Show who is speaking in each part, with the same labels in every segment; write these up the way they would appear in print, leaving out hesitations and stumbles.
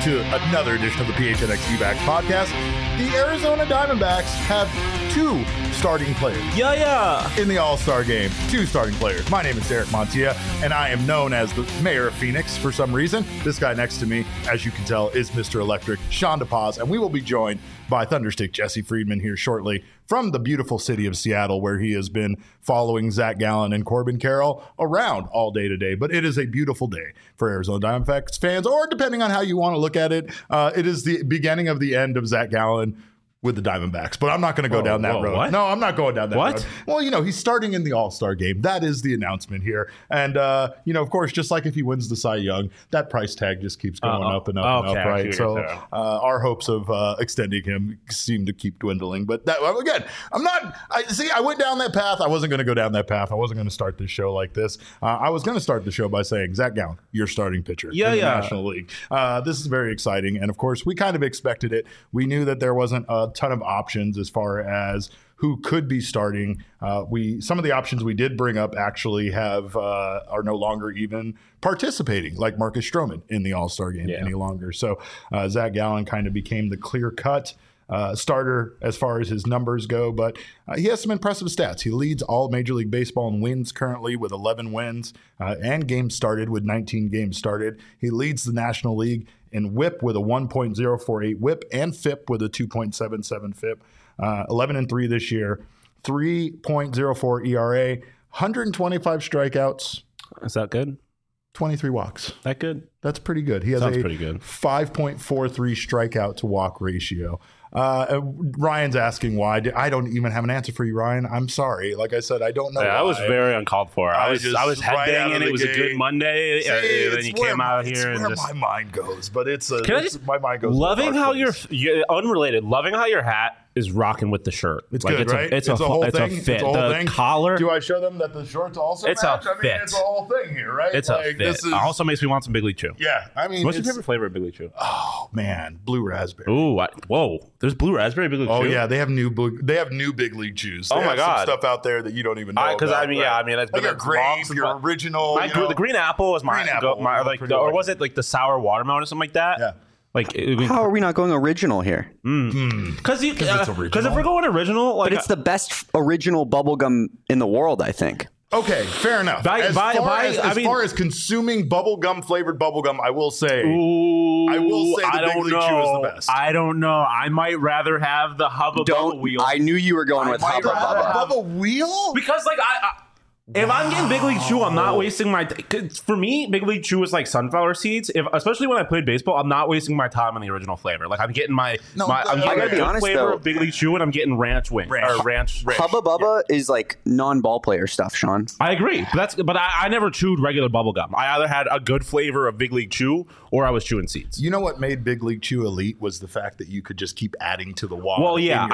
Speaker 1: to another edition of the PHNX D-Backs podcast. The Arizona Diamondbacks have two starting players. In the All-Star game, two starting players. My name is Derek Montilla, and I am known as the mayor of Phoenix for some reason. This guy next to me, as you can tell, is Mr. Electric, Sean DePaz, and we will be joined by Thunderstick Jesse Friedman here shortly from the beautiful city of Seattle, where he has been following Zach Gallen and Corbin Carroll around all day today. But it is a beautiful day for Arizona Diamondbacks fans, or depending on how you want to look at it, it is the beginning of the end of Zach Gallen with the Diamondbacks, but I'm not going to go down that road.
Speaker 2: What?
Speaker 1: No, I'm not going down that
Speaker 2: What?
Speaker 1: road. Well, you know, he's starting in the All-Star game. That is the announcement here. And, you know, of course, just like if he wins the Cy Young, that price tag just keeps going up and up and up, right? So our hopes of extending him seem to keep dwindling. But that, again, I went down that path. I wasn't going to go down that path. I wasn't going to start this show like this. I was going to start the show by saying, Zach Gallen, you're starting pitcher in the National League. This is very exciting. And, of course, we kind of expected it. We knew that there wasn't a ton of options as far as who could be starting. Some of the options we did bring up actually are no longer even participating, like Marcus Stroman in the All-Star game any longer. So Zach Gallen kind of became the clear-cut starter as far as his numbers go, but he has some impressive stats. He leads all Major League Baseball in wins currently with 11 wins and games started with 19 games started. He leads the National League in WHIP with a 1.048 WHIP and FIP with a 2.77 FIP. 11-3 this year, 3.04 ERA, 125 strikeouts.
Speaker 2: Is that good?
Speaker 1: 23 walks.
Speaker 2: That good?
Speaker 1: That's pretty good. He has
Speaker 2: Sounds
Speaker 1: a
Speaker 2: pretty good.
Speaker 1: 5.43 strikeout to walk ratio. Ryan's asking why. I don't even have an answer for you, Ryan. I'm sorry. Like I said, I don't know.
Speaker 2: I was very uncalled for. I was headbanging. It was a good Monday. Then you came out here and
Speaker 1: just my mind goes. But my mind goes.
Speaker 2: Loving how you're unrelated. Loving how your hat is rocking with the shirt.
Speaker 1: It's like good, right?
Speaker 2: It's a whole thing.
Speaker 1: It's a whole thing.
Speaker 2: Collar.
Speaker 1: Do I show them that the shorts also
Speaker 2: it's
Speaker 1: match?
Speaker 2: A fit.
Speaker 1: It's a whole thing here, right?
Speaker 2: It's a fit. It also makes me want some Big League Chew.
Speaker 1: Yeah, I mean,
Speaker 2: what's your favorite flavor of Big League Chew?
Speaker 1: Oh man, blue raspberry.
Speaker 2: Ooh, whoa! There's blue raspberry Big League Chew.
Speaker 1: Oh yeah, they have new Big League Chews. They have some stuff out there that you don't even know.
Speaker 2: Because
Speaker 1: about,
Speaker 2: that's been
Speaker 1: your grape, your original.
Speaker 2: The green apple was my or was it like the sour watermelon or something like that?
Speaker 1: Yeah.
Speaker 3: How are we not going original here?
Speaker 2: Because if we're going original,
Speaker 3: but it's the best original bubblegum in the world, I think.
Speaker 1: Okay, fair enough. As far as consuming flavored bubblegum, I will say the Big League Chew is the best.
Speaker 2: I don't know. I might rather have the Hubba Bubba Wheel.
Speaker 3: I knew you were going with Hubba Bubba.
Speaker 1: Bubba Wheel?
Speaker 2: Because if I'm getting Big League Chew, I'm not wasting my for me, Big League Chew is like sunflower seeds. Especially when I played baseball, I'm not wasting my time on the original flavor. Like I'm getting I'm getting a flavor of Big League Chew, and I'm getting ranch wing or ranch.
Speaker 3: Hubba Bubba is like non-ball player stuff, Sean.
Speaker 2: I agree, but I never chewed regular bubble gum. I either had a good flavor of Big League Chew or I was chewing seeds.
Speaker 1: You know what made Big League Chew elite was the fact that you could just keep adding to the wall.
Speaker 2: Well, yeah,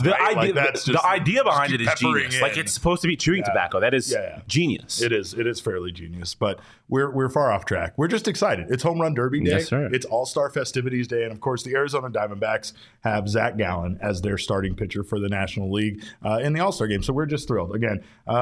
Speaker 2: the idea behind it is genius. Like it's supposed to be chewing tobacco. That is genius.
Speaker 1: It is fairly genius, but we're far off track. We're just excited. It's Home Run Derby Day.
Speaker 2: Yes, sir.
Speaker 1: It's All-Star Festivities Day, and of course, the Arizona Diamondbacks have Zach Gallen as their starting pitcher for the National League in the All-Star game. So we're just thrilled. Again,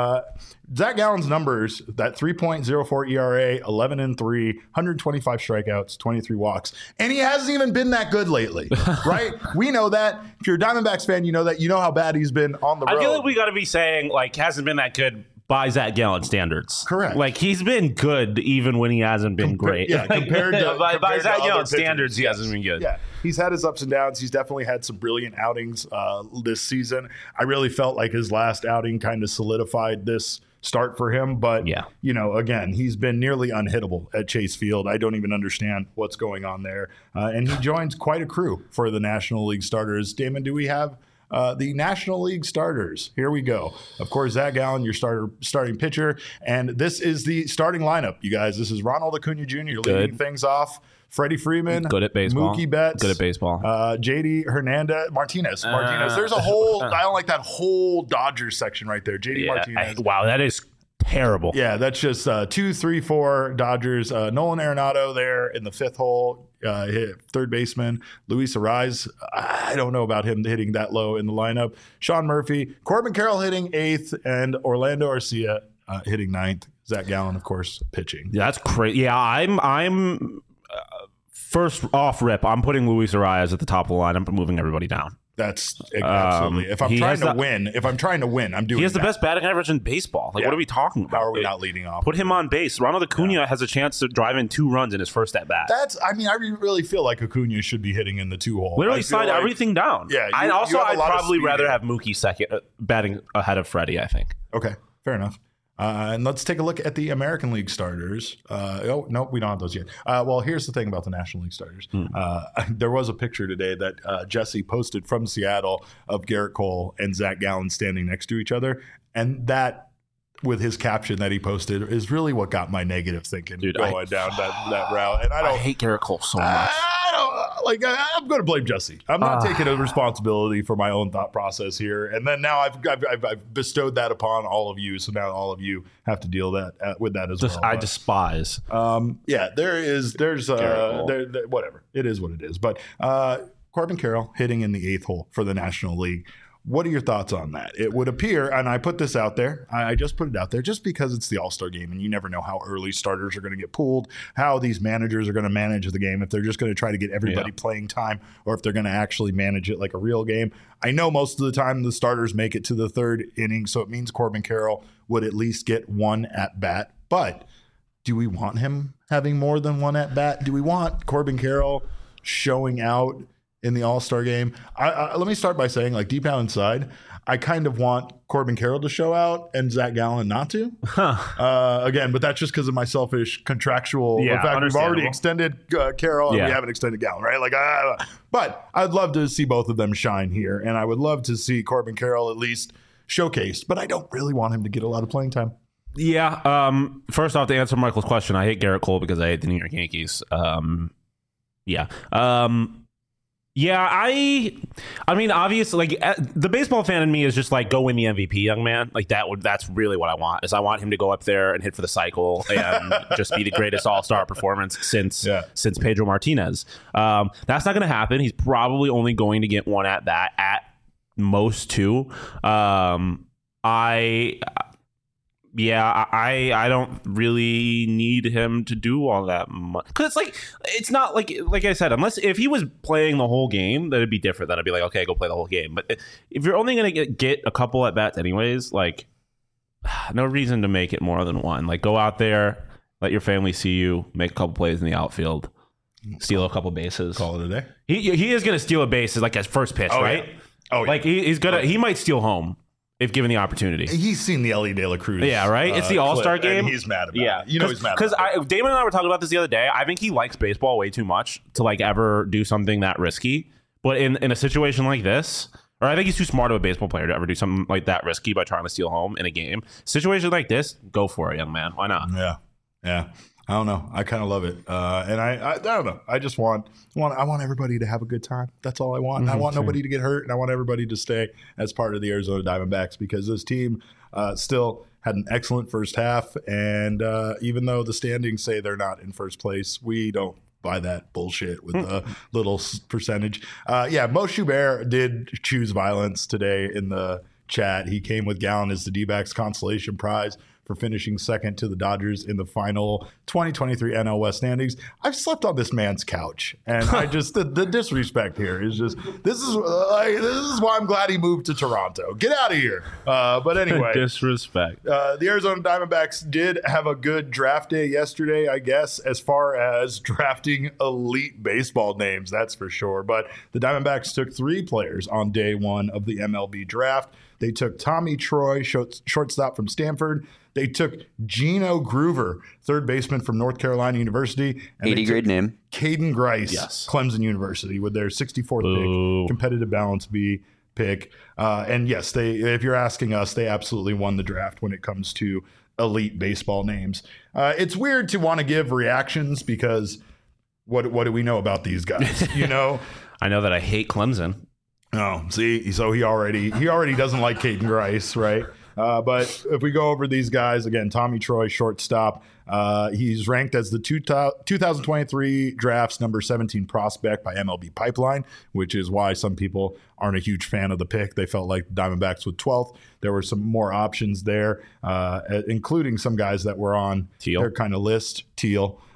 Speaker 1: Zach Gallen's numbers: that 3.04 ERA, 11-3, 125 strikeouts, 23 walks, and he hasn't even been that good lately, right? We know that. If you're a Diamondbacks fan, you know that. You know how bad he's been on the road.
Speaker 2: I feel like we got to be saying hasn't been that good by Zach Gallen standards.
Speaker 1: Correct.
Speaker 2: Like he's been good even when he hasn't been great.
Speaker 1: Yeah, compared to
Speaker 2: by Zach Gallen standards, he
Speaker 1: yes.
Speaker 2: hasn't been good.
Speaker 1: Yeah, he's had his ups and downs. He's definitely had some brilliant outings this season. I really felt like his last outing kind of solidified this start for him. But, again, he's been nearly unhittable at Chase Field. I don't even understand what's going on there. And he joins quite a crew for the National League starters. Damon, do we have the National League starters? Here we go. Of course, Zach Gallen, your starting pitcher. And this is the starting lineup, you guys. This is Ronald Acuna Jr. leading things off. Freddie Freeman,
Speaker 2: good at baseball.
Speaker 1: Mookie Betts,
Speaker 2: good at baseball.
Speaker 1: JD Martinez. There's a whole. I don't like that whole Dodgers section right there. JD Martinez.
Speaker 2: Wow, that is terrible.
Speaker 1: Yeah, that's just 2, 3, 4 Dodgers. Nolan Arenado there in the fifth hole. Hit third baseman. Luis Arraez. I don't know about him hitting that low in the lineup. Sean Murphy, Corbin Carroll hitting 8th, and Orlando Arcia hitting 9th. Zach Gallen, of course, pitching.
Speaker 2: Yeah, that's crazy. Yeah, I'm first off rip, I'm putting Luis Arias at the top of the line. I'm moving everybody down.
Speaker 1: That's absolutely. If I'm trying to win, I'm doing.
Speaker 2: He has the best batting average in baseball. Like, what are we talking about?
Speaker 1: How are we not leading off?
Speaker 2: Put him on base. Ronald Acuna has a chance to drive in 2 runs in his first at bat.
Speaker 1: I really feel like Acuna should be hitting in the 2-hole.
Speaker 2: Literally slide everything down.
Speaker 1: Yeah.
Speaker 2: I'd probably rather have Mookie second, batting ahead of Freddie, I think.
Speaker 1: Okay, fair enough. And let's take a look at the American League starters. No, we don't have those yet. Well, here's the thing about the National League starters. There was a picture today that Jesse posted from Seattle of Garrett Cole and Zach Gallen standing next to each other. And that, with his caption that he posted, is really what got my negative thinking going down that route. And I
Speaker 2: hate Garrett Cole so much.
Speaker 1: I'm going to blame Jesse. I'm not taking a responsibility for my own thought process here. And then now I've bestowed that upon all of you. So now all of you have to deal with that as well.
Speaker 2: I despise.
Speaker 1: There's whatever. It is what it is. But Corbin Carroll hitting in the 8th hole for the National League. What are your thoughts on that? It would appear, and I put this out there, I just put it out there just because it's the All-Star game and you never know how early starters are going to get pulled, how these managers are going to manage the game, if they're just going to try to get everybody playing time or if they're going to actually manage it like a real game. I know most of the time the starters make it to the 3rd inning, so it means Corbin Carroll would at least get 1 at-bat. But do we want him having more than 1 at-bat? Do we want Corbin Carroll showing out in the All-Star game? Let me start by saying, like, deep down inside, I kind of want Corbin Carroll to show out and Zach Gallen not to. Again, but that's just because of my selfish contractual fact. We've already extended Carroll and we haven't extended Gallen, right? But I'd love to see both of them shine here, and I would love to see Corbin Carroll at least showcased, but I don't really want him to get a lot of playing time.
Speaker 2: Yeah. First off, to answer Michael's question, I hate Garrett Cole because I hate the New York Yankees. Yeah, I mean, obviously, like, the baseball fan in me is just like, go win the MVP, young man. Like, that's really what I want. Is I want him to go up there and hit for the cycle and just be the greatest all-star performance since Pedro Martinez. That's not going to happen. He's probably only going to get 1 at bat, at most 2. I don't really need him to do all that much. Because it's not like I said, unless if he was playing the whole game, that'd be different. Then I'd be like, okay, go play the whole game. But if you're only going to get a couple at bats anyways, like, no reason to make it more than 1. Like, go out there, let your family see you, make a couple plays in the outfield, steal a couple bases.
Speaker 1: Call it a day.
Speaker 2: He is going to steal a base like his first pitch, right?
Speaker 1: Yeah. Oh, yeah.
Speaker 2: Like, he might steal home if given the opportunity.
Speaker 1: He's seen the Ellie De La Cruz.
Speaker 2: Yeah, right? It's the All-Star game.
Speaker 1: And he's mad about it. He's mad about it.
Speaker 2: Because Damon and I were talking about this the other day. I think he likes baseball way too much to, like, ever do something that risky. But in a situation like this, or I think he's too smart of a baseball player to ever do something like that risky by trying to steal home in a game. Situation like this, go for it, young man. Why not?
Speaker 1: Yeah. I don't know. I kind of love it. And I don't know. I just want everybody to have a good time. That's all I want. I want nobody to get hurt, and I want everybody to stay as part of the Arizona Diamondbacks, because this team still had an excellent first half. And even though the standings say they're not in first place, we don't buy that bullshit with a little percentage. Mo Schubert did choose violence today in the chat. He came with Gallen as the D-backs consolation prize for finishing second to the Dodgers in the final 2023 NL West standings. I've slept on this man's couch, and I just the disrespect here is just this is why I'm glad he moved to Toronto. Get out of here. But anyway,
Speaker 2: disrespect.
Speaker 1: The Arizona Diamondbacks did have a good draft day yesterday, I guess, as far as drafting elite baseball names, that's for sure. But the Diamondbacks took 3 players on day 1 of the MLB draft. They took Tommy Troy, shortstop from Stanford. They took Geno Groover, third baseman from North Carolina University. And
Speaker 3: 80 grade name.
Speaker 1: Caden Grice, Clemson University, with their 64th pick, competitive balance B pick. And yes, if you're asking us, they absolutely won the draft when it comes to elite baseball names. It's weird to want to give reactions because what do we know about these guys? You know,
Speaker 2: I know that I hate Clemson.
Speaker 1: Oh, see, so he already doesn't like Caden Grice, right? But if we go over these guys again, Tommy Troy, shortstop, he's ranked as the 2023 draft's number 17 prospect by MLB Pipeline, which is why some people aren't a huge fan of the pick. They felt like the Diamondbacks with 12th. There were some more options there, including some guys that were on their kind of list. Teal.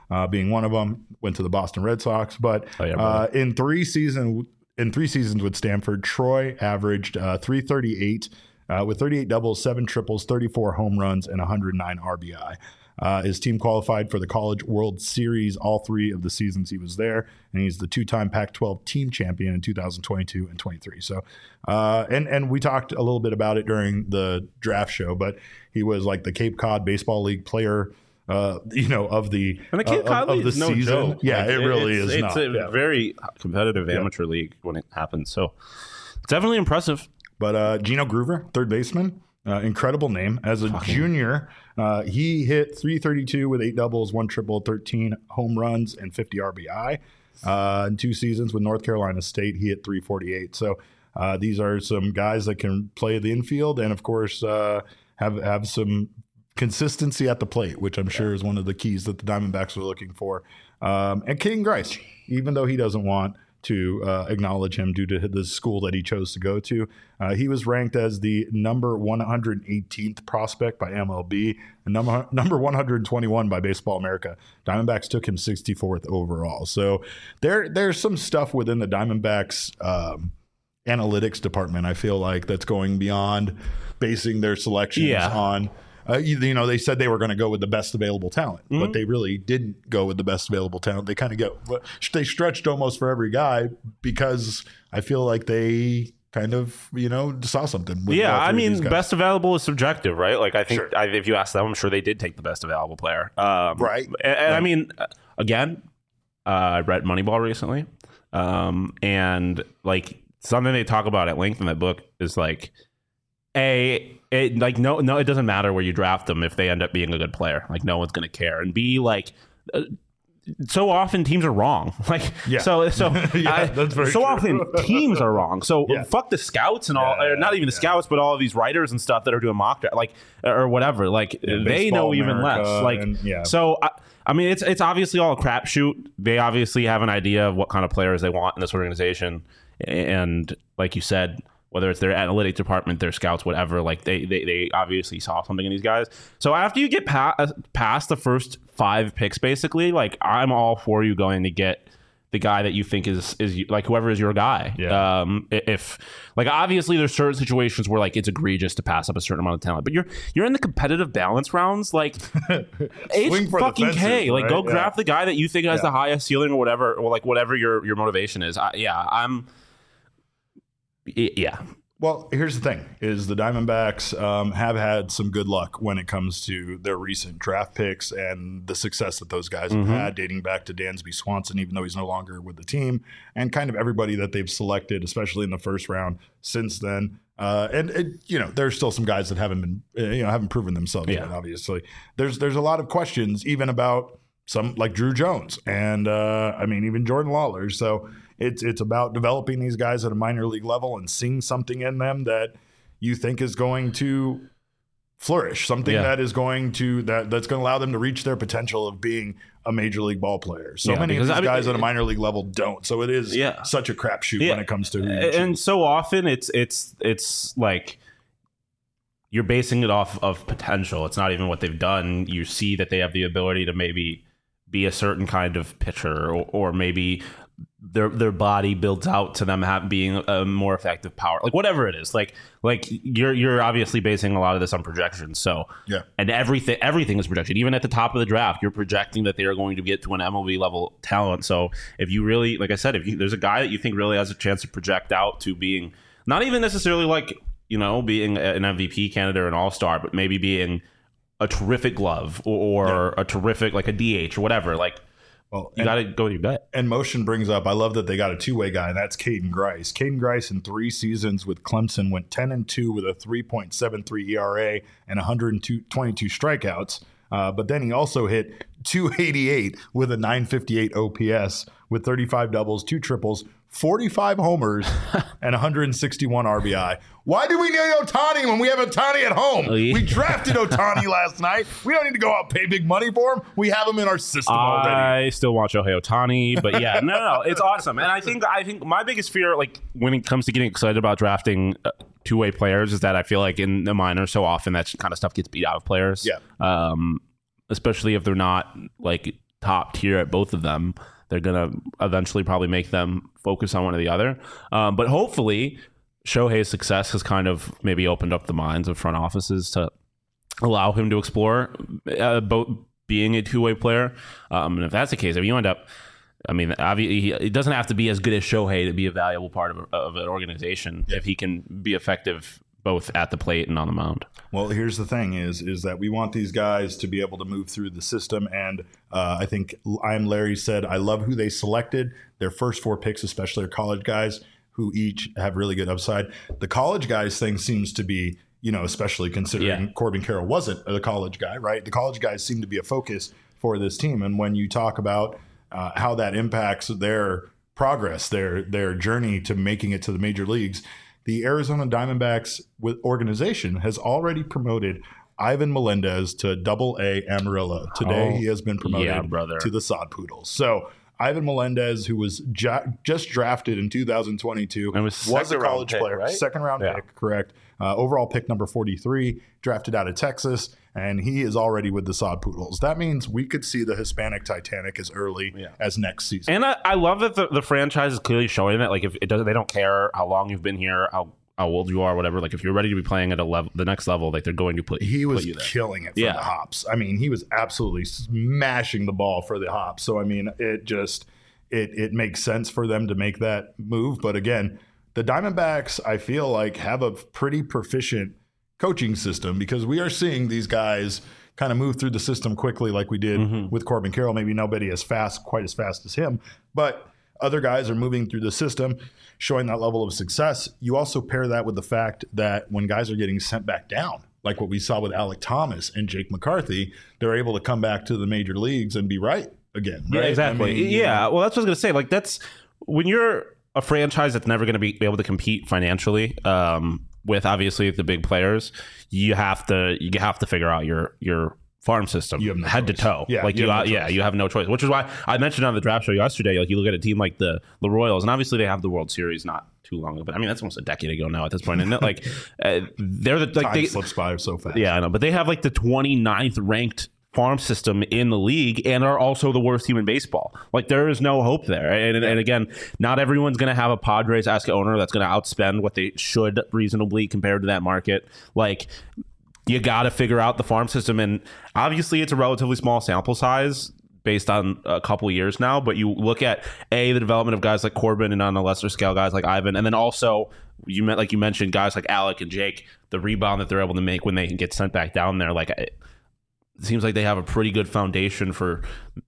Speaker 1: being one of them. Went to the Boston Red Sox, but in 3 seasons with Stanford, Troy averaged 338 with 38 doubles, 7 triples, 34 home runs, and 109 RBI. His team qualified for the College World Series all 3 of the seasons he was there, and he's the 2-time Pac-12 team champion in 2022 and 23. So, and we talked a little bit about it during the draft show, but he was like the Cape Cod Baseball League player, of the
Speaker 2: Cape Cod League is no
Speaker 1: season.
Speaker 2: Joke.
Speaker 1: Yeah,
Speaker 2: like,
Speaker 1: it really is.
Speaker 2: It's a very competitive amateur league when it happens. So, it's definitely impressive.
Speaker 1: But Gino Groover, third baseman. Incredible name. As a junior, he hit 332 with 8 doubles, 1 triple, 13 home runs, and 50 RBI. In 2 seasons with North Carolina State, he hit 348. So these are some guys that can play the infield and, of course, have some consistency at the plate, which I'm sure is one of the keys that the Diamondbacks are looking for. And Caden Grice, even though he doesn't want to acknowledge him due to the school that he chose to go to. He was ranked as the number 118th prospect by MLB and number 121 by Baseball America. Diamondbacks took him 64th overall. So there's some stuff within the Diamondbacks analytics department, I feel like, that's going beyond basing their selections on they said they were going to go with the best available talent, but they really didn't go with the best available talent. They kind of they stretched almost for every guy because I feel like they kind of, saw something.
Speaker 2: I mean, best available is subjective, right? Like, I think if you ask them, I'm sure they did take the best available player.
Speaker 1: Right.
Speaker 2: And I mean, again, I read Moneyball recently. And like something they talk about at length in that book is like, it doesn't matter where you draft them if they end up being a good player. Like, no one's going to care. And B, like, so often teams are wrong. Like, so that's very so true. Often teams are wrong. So fuck the scouts and all, not even the scouts, but all of these writers and stuff that are doing mock draft, like, or whatever. Like, they know even less. Like, so I mean, it's obviously all a crapshoot. They obviously have an idea of what kind of players they want in this organization, and like you said, whether it's their analytics department, their scouts, whatever, like they obviously saw something in these guys. So after you get past the first 5 picks, basically, like, I'm all for you going to get the guy that you think is like whoever is your guy. Yeah. If like, obviously there's certain situations where like it's egregious to pass up a certain amount of talent, but you're in the competitive balance rounds, like it's fucking K. Like, go draft the guy that you think has the highest ceiling or whatever, or like whatever your motivation is.
Speaker 1: Well, here's the thing, is the Diamondbacks have had some good luck when it comes to their recent draft picks and the success that those guys have had, dating back to Dansby Swanson, even though he's no longer with the team, and kind of everybody that they've selected, especially in the first round since then. There's still some guys that haven't been, haven't proven themselves yet, obviously. There's a lot of questions even about some like Drew Jones and even Jordan Lawler. So it's about developing these guys at a minor league level and seeing something in them that you think is going to flourish, something that is going to that's going to allow them to reach their potential of being a major league ball player. So many of these guys at a minor league level don't. So it is such a crapshoot when it comes to
Speaker 2: and so often it's like you're basing it off of potential. It's not even what they've done. You see that they have the ability to maybe be a certain kind of pitcher, or maybe their body builds out to them being a more effective power, like whatever it is. Like you're obviously basing a lot of this on projections. So and everything is projection. Even at the top of the draft, you're projecting that they are going to get to an MLB level talent. So if you really, like I said, there's a guy that you think really has a chance to project out to being not even necessarily like, being an MVP candidate or an all-star, but maybe being a terrific glove or a terrific, like a DH or whatever, like, well, you got to go with your gut.
Speaker 1: And Motion brings up, I love that they got a two-way guy, and that's Caden Grice. Caden Grice in 3 seasons with Clemson went 10-2 with a 3.73 ERA and 122 strikeouts. But then he also hit 288 with a 958 OPS with 35 doubles, 2 triples, 45 homers, and 161 RBI. Why do we need Ohtani when we have Ohtani at home? We drafted Ohtani last night. We don't need to go out and pay big money for him. We have him in our system already.
Speaker 2: I still want Shohei Ohtani, but yeah, no, it's awesome. And I think my biggest fear, like when it comes to getting excited about drafting two-way players, is that I feel like in the minors so often that kind of stuff gets beat out of players. Yeah. Especially if they're not like top tier at both of them. They're going to eventually probably make them focus on one or the other. But hopefully Shohei's success has kind of maybe opened up the minds of front offices to allow him to explore both being a two-way player. And if that's the case, if you end up, I mean, obviously, it doesn't have to be as good as Shohei to be a valuable part of an organization if he can be effective both at the plate and on the mound.
Speaker 1: Well, here's the thing is that we want these guys to be able to move through the system. And I think I'm Larry said, I love who they selected. Their first 4 picks, especially are college guys who each have really good upside. The college guys thing seems to be, especially considering Corbin Carroll wasn't a college guy, right? The college guys seem to be a focus for this team. And when you talk about how that impacts their progress, their journey to making it to the major leagues, the Arizona Diamondbacks organization has already promoted Ivan Melendez to Double-A Amarillo. Today he has been promoted to the Sod Poodles. So Ivan Melendez, who was just drafted in 2022, was a college player, right? Second round pick, correct. Overall pick number 43, drafted out of Texas, and he is already with the Sod Poodles. That means we could see the Hispanic Titanic as early as next season.
Speaker 2: And I love that the franchise is clearly showing that, like, if it doesn't, they don't care how long you've been here, how old you are, whatever. Like, if you're ready to be playing at the next level, like, they're going to put
Speaker 1: he was
Speaker 2: put you there.
Speaker 1: Killing it for the hops. I mean, he was absolutely smashing the ball for the hops. So I mean, it makes sense for them to make that move. But again, the Diamondbacks, I feel like, have a pretty proficient coaching system, because we are seeing these guys kind of move through the system quickly, like we did with Corbin Carroll. Maybe nobody quite as fast as him, but other guys are moving through the system, showing that level of success. You also pair that with the fact that when guys are getting sent back down, like what we saw with Alek Thomas and Jake McCarthy, they're able to come back to the major leagues and be right again. Right?
Speaker 2: Yeah, exactly. I mean, well, that's what I was going to say. Like, that's when you're a franchise that's never going to be able to compete financially with obviously the big players, you have to figure out your farm system head to toe. You have no choice, which is why I mentioned on the draft show yesterday, like, you look at a team like the Royals, and obviously they have the World Series not too long ago, but I mean, that's almost a decade ago now at this point, isn't it? Like, they're the
Speaker 1: time slips by so fast.
Speaker 2: Yeah, I know, but they have like the 29th ranked farm system in the league and are also the worst team in baseball. Like, there is no hope there. And again, not everyone's going to have a Padres-esque owner that's going to outspend what they should reasonably compared to that market. Like, you got to figure out the farm system. And obviously it's a relatively small sample size based on a couple years now, but you look at the development of guys like Corbin, and on a lesser scale guys like Ivan, and then also you mentioned guys like Alec and Jake, the rebound that they're able to make when they get sent back down there. Like, it seems like they have a pretty good foundation for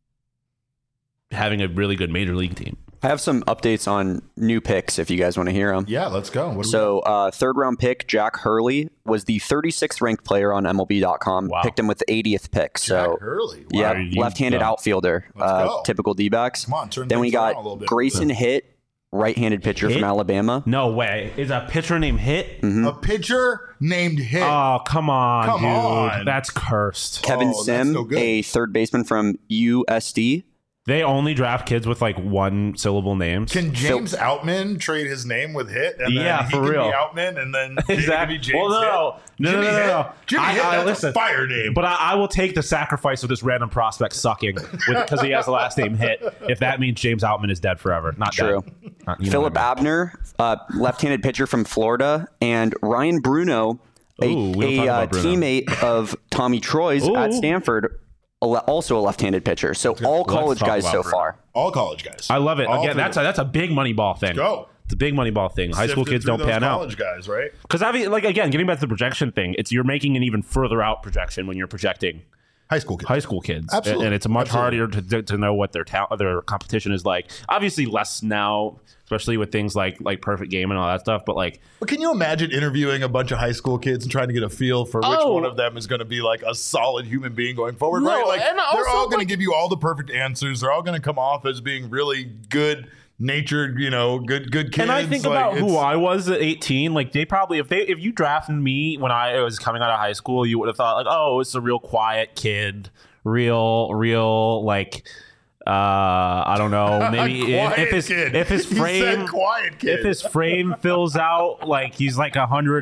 Speaker 2: having a really good major league team.
Speaker 3: I have some updates on new picks if you guys want to hear them.
Speaker 1: Yeah, let's go.
Speaker 3: Third round pick, Jack Hurley, was the 36th ranked player on MLB.com.
Speaker 2: Wow.
Speaker 3: Picked him with the 80th pick.
Speaker 1: Jack Hurley.
Speaker 3: Wow. Yeah, left-handed outfielder. Typical D-backs.
Speaker 1: Come on,
Speaker 3: then we got Grayson Hitt, right-handed pitcher from Alabama.
Speaker 2: No way. Is a pitcher named Hitt?
Speaker 3: Mm-hmm.
Speaker 1: A pitcher named Hitt.
Speaker 2: Oh, come on, dude. That's cursed.
Speaker 3: Kevin Sim, a third baseman from USD.
Speaker 2: They only draft kids with like one syllable names.
Speaker 1: Can James Outman trade his name with Hitt? And then he
Speaker 2: for
Speaker 1: can
Speaker 2: real.
Speaker 1: Be Outman, and then
Speaker 2: exactly.
Speaker 1: James no.
Speaker 2: Jimmy Hitt,
Speaker 1: that's a fire name.
Speaker 2: But I will take the sacrifice of this random prospect sucking because he has the last name Hitt, if that means James Outman is dead forever. Not
Speaker 3: true.
Speaker 2: Dead.
Speaker 3: Philip Abner, left-handed pitcher from Florida, and Ryan Bruno, a teammate of Tommy Troy's at Stanford. Also a left-handed pitcher. So all college guys so far.
Speaker 1: All college guys.
Speaker 2: I love it. Again, that's a big money ball thing.
Speaker 1: Go.
Speaker 2: It's a big money ball thing. High school kids don't pan out.
Speaker 1: College guys, right?
Speaker 2: Because again, getting back to the projection thing, you're making an even further out projection when you're projecting
Speaker 1: high school
Speaker 2: kids.
Speaker 1: Absolutely.
Speaker 2: And it's much harder to know what their competition is like. Obviously less now, especially with things like Perfect Game and all that stuff. But
Speaker 1: can you imagine interviewing a bunch of high school kids and trying to get a feel for which one of them is going to be like a solid human being going forward, right? Like, they're all going to give you all the perfect answers. They're all going to come off as being really good natured, good kids.
Speaker 2: And I think about who I was at 18. Like, they probably, if you drafted me when I was coming out of high school, you would have thought like, oh, it's a real quiet kid, real like I don't know. Maybe if his frame fills out like he's like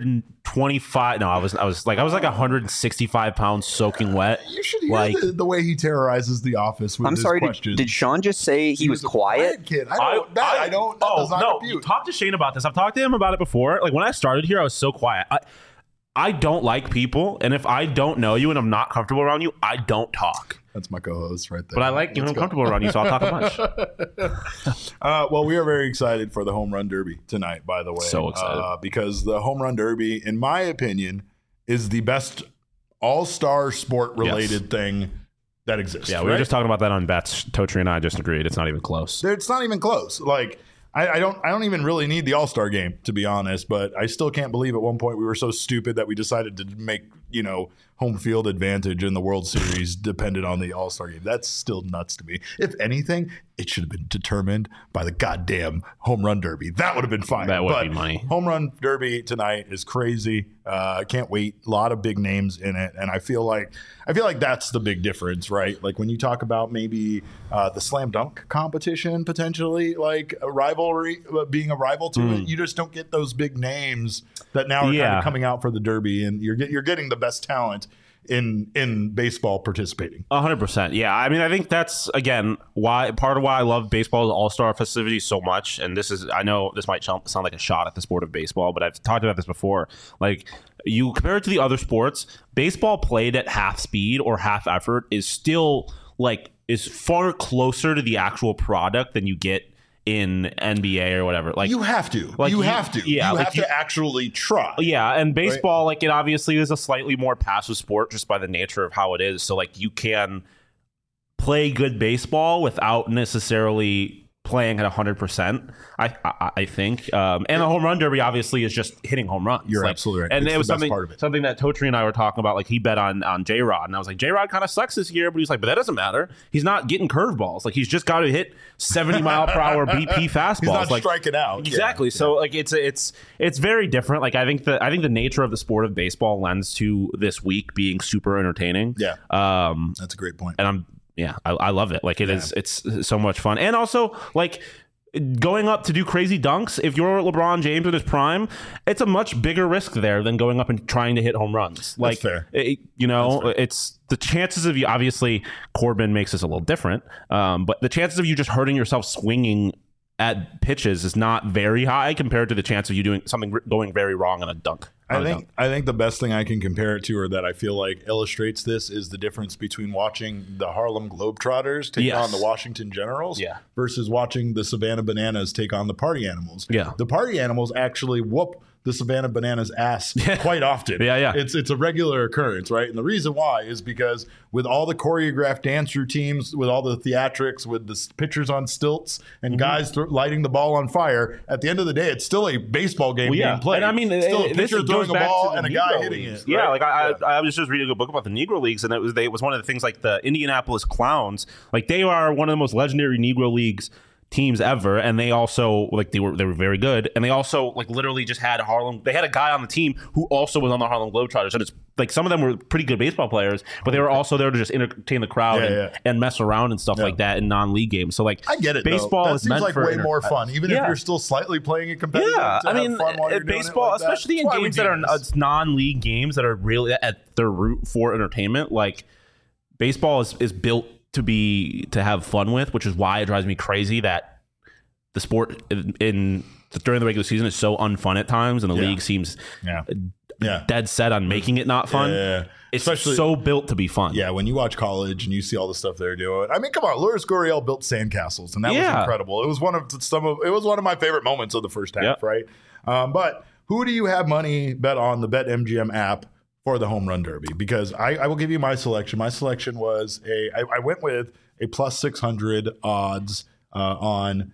Speaker 2: 125. No, I was like 165 pounds soaking wet.
Speaker 1: You should hear the way he terrorizes the office with his questions.
Speaker 3: Did Sean just say he was quiet?
Speaker 1: Kid. I don't. That does not compute.
Speaker 2: Talk to Shane about this. I've talked to him about it before. Like when I started here, I was so quiet. I don't like people, and if I don't know you and I'm not comfortable around you, I don't talk.
Speaker 1: That's my co-host right there.
Speaker 2: But I like I'm comfortable around you, so I'll talk a bunch.
Speaker 1: Well, we are very excited for the Home Run Derby tonight, by the way.
Speaker 2: So excited.
Speaker 1: Because the Home Run Derby, in my opinion, is the best all-star sport-related thing that exists.
Speaker 2: Yeah, we were just talking about that on bets. Totri and I just agreed. It's not even close.
Speaker 1: It's not even close. Like, I don't even really need the All-Star game, to be honest, but I still can't believe at one point we were so stupid that we decided to make, home field advantage in the World Series depended on the All-Star game. That's still nuts to me. If anything, it should have been determined by the goddamn Home Run Derby. That would have been fine.
Speaker 2: That would be money.
Speaker 1: Home Run Derby tonight is crazy. I can't wait. A lot of big names in it, and I feel like that's the big difference, right? Like when you talk about maybe the slam dunk competition potentially, like a rivalry, being a rival to it, you just don't get those big names that now are kind of coming out for the Derby, and you're getting the best talent in baseball participating.
Speaker 2: 100%. Yeah. I mean, I think that's, again, part of why I love baseball's all-star festivities so much. And I know this might sound like a shot at the sport of baseball, but I've talked about this before. Like, you compare it to the other sports, baseball played at half speed or half effort is far closer to the actual product than you get in NBA or whatever. Like, you have to.
Speaker 1: Yeah, you have to actually try.
Speaker 2: Yeah, and baseball, right? It obviously is a slightly more passive sport just by the nature of how it is. So, you can play good baseball without necessarily playing at 100%, I think. And the Home Run Derby obviously is just hitting home runs.
Speaker 1: You're absolutely right.
Speaker 2: And it was something that Totri and I were talking about. Like, he bet on J-Rod. And I was like, J-Rod kind of sucks this year. But he's like, but that doesn't matter. He's not getting curveballs. Like, he's just got to hit 70 mile per hour BP fastballs. He's
Speaker 1: not striking out.
Speaker 2: Exactly. Yeah. So, it's very different. Like, I think the nature of the sport of baseball lends to this week being super entertaining.
Speaker 1: Yeah. That's a great point.
Speaker 2: And I love it. Like, it's so much fun. And also, like, going up to do crazy dunks, if you're LeBron James in his prime, it's a much bigger risk there than going up and trying to hit home runs. Like,
Speaker 1: that's fair.
Speaker 2: It's the chances of you, obviously Corbin makes this a little different, but the chances of you just hurting yourself swinging at pitches is not very high compared to the chance of you doing something going very wrong on a dunk.
Speaker 1: I think the best thing I can compare it to, or that I feel like illustrates this, is the difference between watching the Harlem Globetrotters take on the Washington Generals versus watching the Savannah Bananas take on the Party Animals.
Speaker 2: Yeah.
Speaker 1: The Party Animals actually whoop the Savannah Bananas ass quite often. It's a regular occurrence, right? And the reason why is because with all the choreographed dance routines, with all the theatrics, with the pitchers on stilts and guys lighting the ball on fire, at the end of the day, it's still a baseball game being played.
Speaker 2: And I mean,
Speaker 1: still a pitcher throwing a ball and a guy hitting it. Right?
Speaker 2: Yeah, I was just reading a book about the Negro Leagues, and it was one of the things, like the Indianapolis Clowns, like they are one of the most legendary Negro Leagues teams ever, and they also they were very good, and they also literally just had they had a guy on the team who also was on the Harlem Globetrotters, and it's like some of them were pretty good baseball players, but they were also there to just entertain the crowd and mess around and stuff like that in non-league games. So I
Speaker 1: get it.
Speaker 2: Baseball
Speaker 1: is meant for way more fun, even if you're still slightly playing it competitive. Yeah,
Speaker 2: I mean, baseball, especially in games that are non-league games that are really at their root for entertainment. Like, baseball is built to have fun with, which is why it drives me crazy that the sport during the regular season is so unfun at times, and the league seems dead set on making it not fun. It's especially so built to be fun.
Speaker 1: Yeah, when you watch college and you see all the stuff they're doing. I mean, come on, Lourdes Gurriel built sandcastles, and that was incredible. It was one of my favorite moments of the first half, right? But who do you have money bet on the BetMGM app for the Home Run Derby? Because I will give you my selection. My selection was I went with a plus 600 odds on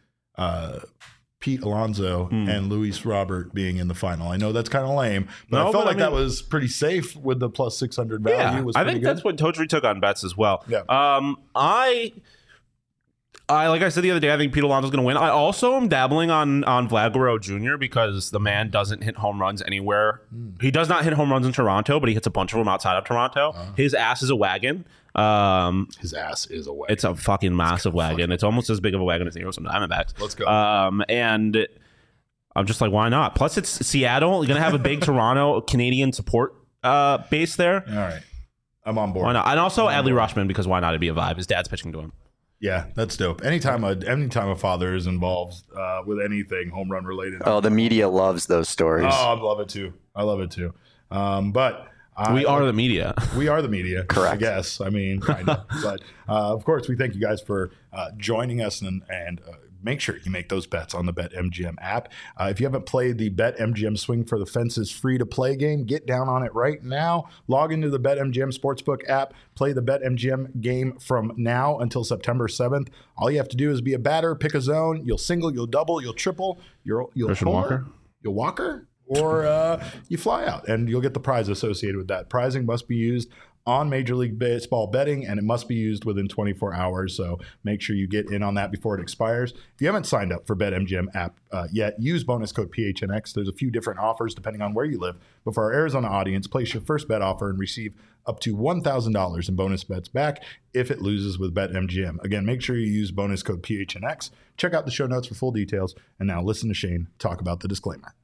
Speaker 1: Pete Alonso and Luis Robert being in the final. I know that's kind of lame, but I felt like that was pretty safe with the plus 600 value.
Speaker 2: I think that's what Totri took on bets as well.
Speaker 1: Yeah.
Speaker 2: I like I said the other day, I think Pete Alonso's going to win. I also am dabbling on Vlad Guerrero Jr. because the man doesn't hit home runs anywhere. He does not hit home runs in Toronto, but he hits a bunch of them outside of Toronto. His ass is a wagon.
Speaker 1: His ass is a wagon.
Speaker 2: It's a fucking massive wagon. It's almost as big of a wagon as the Arizona Diamondbacks.
Speaker 1: Let's go.
Speaker 2: And I'm just like, why not? Plus, it's Seattle. You're going to have a big Toronto Canadian support base there.
Speaker 1: All right. I'm on board.
Speaker 2: Why not? And also Adley Rutschman, because why not? It'd be a vibe. His dad's pitching to him.
Speaker 1: Yeah, that's dope. Anytime a father is involved with anything home run related.
Speaker 3: Oh, the media loves those stories.
Speaker 1: Oh, I love it too. But
Speaker 2: we are the media.
Speaker 1: We are the media.
Speaker 3: Correct.
Speaker 1: I guess. I mean, kind of. But of course, we thank you guys for joining us and make sure you make those bets on the BetMGM app. If you haven't played the BetMGM Swing for the Fences free-to-play game, get down on it right now. Log into the BetMGM Sportsbook app. Play the BetMGM game from now until September 7th. All you have to do is be a batter, pick a zone. You'll single, you'll double, you'll triple, you'll homer, you'll walker, or you fly out, and you'll get the prize associated with that. Prizing must be used on Major League Baseball betting, and it must be used within 24 hours. So make sure you get in on that before it expires. If you haven't signed up for BetMGM app yet, use bonus code PHNX. There's a few different offers depending on where you live. But for our Arizona audience, place your first bet offer and receive up to $1,000 in bonus bets back if it loses with BetMGM. Again, make sure you use bonus code PHNX. Check out the show notes for full details. And now listen to Shane talk about the disclaimer.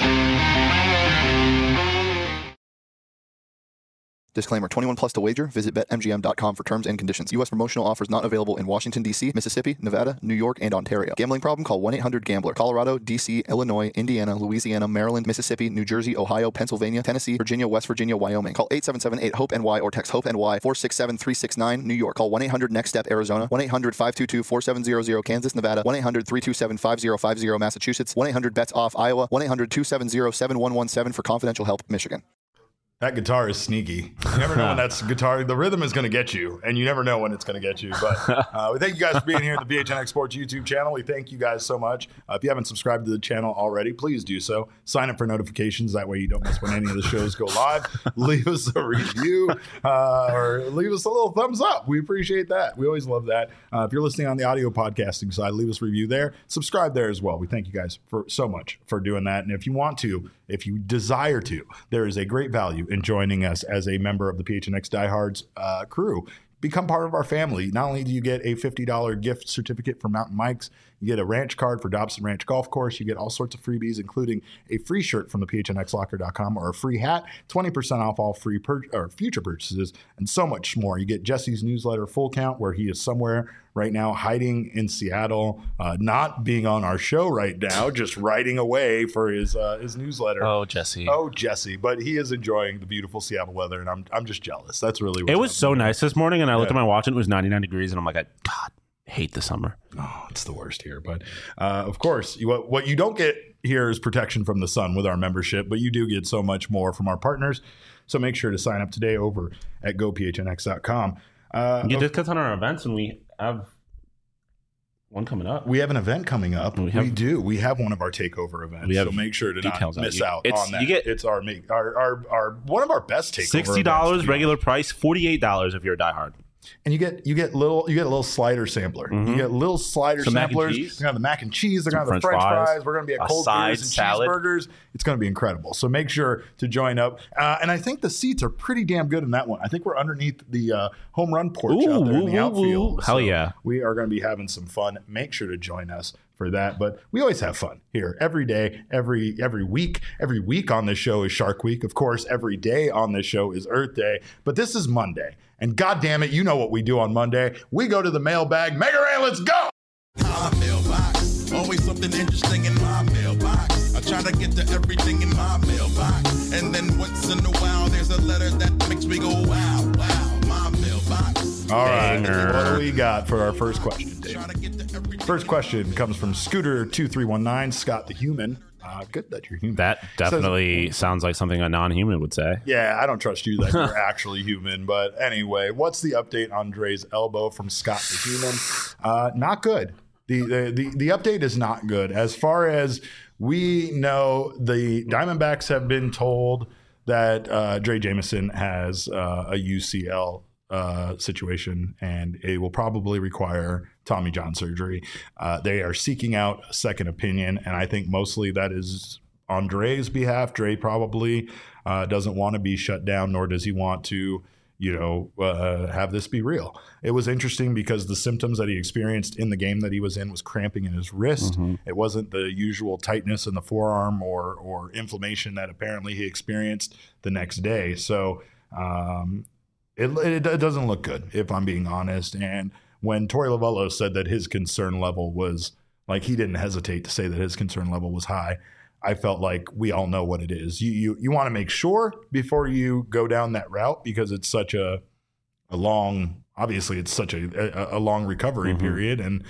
Speaker 4: Disclaimer, 21 plus to wager. Visit BetMGM.com for terms and conditions. U.S. promotional offers not available in Washington, D.C., Mississippi, Nevada, New York, and Ontario. Gambling problem? Call 1-800-GAMBLER. Colorado, D.C., Illinois, Indiana, Louisiana, Maryland, Mississippi, New Jersey, Ohio, Pennsylvania, Tennessee, Virginia, West Virginia, Wyoming. Call 877-8-HOPE-NY or text HOPE-NY 467-369, New York. Call 1-800-NEXT-STEP, Arizona. 1-800-522-4700, Kansas, Nevada. 1-800-327-5050, Massachusetts. 1-800-BETS-OFF, Iowa. 1-800-270-7117 for confidential help, Michigan.
Speaker 1: That guitar is sneaky. You never know when that's guitar. The rhythm is going to get you, and you never know when it's going to get you. But we thank you guys for being here at the PHNX Sports YouTube channel. We thank you guys so much. If you haven't subscribed to the channel already, please do so. Sign up for notifications. That way you don't miss when any of the shows go live. Leave us a review or leave us a little thumbs up. We appreciate that. We always love that. If you're listening on the audio podcasting side, leave us a review there. Subscribe there as well. We thank you guys so much for doing that. And if you want to, if you desire to, there is a great value in joining us as a member of the PHNX Diehards crew. Become part of our family. Not only do you get a $50 gift certificate from Mountain Mike's, you get a ranch card for Dobson Ranch Golf Course. You get all sorts of freebies, including a free shirt from the PHNXLocker.com or a free hat, 20% off all free future purchases, and so much more. You get Jesse's newsletter, Full Count, where he is somewhere right now hiding in Seattle, not being on our show right now, just writing away for his newsletter.
Speaker 2: Oh, Jesse.
Speaker 1: But he is enjoying the beautiful Seattle weather, and I'm just jealous. That's really what
Speaker 2: it was so nice this morning, and I looked at my watch, and it was 99 degrees, and I'm like, God, hate the summer.
Speaker 1: Oh, it's the worst here. But of course, what you don't get here is protection from the sun with our membership, but you do get so much more from our partners. So make sure to sign up today over at gophnx.com.
Speaker 2: You get discounts on our events, and we have one coming up.
Speaker 1: We have an event coming up. We do. We have one of our takeover events. So make sure to not miss out on that. It's our one of our best takeover
Speaker 2: $60 regular price, $48 if you're a diehard.
Speaker 1: And you get a little slider sampler. Mm-hmm. You get little slider samplers. They're going to have the mac and cheese. They're going to have the French fries. We're going to be at cold beers and salad. Cheeseburgers. It's going to be incredible. So make sure to join up. And I think the seats are pretty damn good in that one. I think we're underneath the home run porch out there in the outfield.
Speaker 2: Hell yeah.
Speaker 1: We are going to be having some fun. Make sure to join us for that. But we always have fun here every day, every week. Every week on this show is Shark Week. Of course, every day on this show is Earth Day. But this is Monday. And God damn it, you know what we do on Monday. We go to the mailbag. Mega Ran, let's go!
Speaker 5: My mailbox, always something interesting in my mailbox. I try to get to everything in my mailbox. And then once in a while, there's a letter that makes me go, wow, my mailbox.
Speaker 1: All right, what do we got for our first question, Dave? First question comes from Scooter2319, Scott the Human. Good that you're human.
Speaker 2: That definitely sounds like something a non-human would say.
Speaker 1: Yeah, I don't trust you that you're actually human. But anyway, what's the update on Dre's elbow from Scott the Human? Not good. The update is not good. As far as we know, the Diamondbacks have been told that Dre Jameson has a UCL situation, and it will probably require Tommy John surgery. They are seeking out a second opinion, and I think mostly that is on Dre's behalf. Dre probably doesn't want to be shut down, nor does he want to, have this be real. It was interesting because the symptoms that he experienced in the game that he was in was cramping in his wrist. Mm-hmm. It wasn't the usual tightness in the forearm or inflammation that apparently he experienced the next day. So it doesn't look good, if I'm being honest. And when Torey Lovullo said that his concern level was, like, he didn't hesitate to say that his concern level was high, I felt like we all know what it is. You want to make sure before you go down that route, because it's such a long, obviously it's such a long recovery mm-hmm. period. And,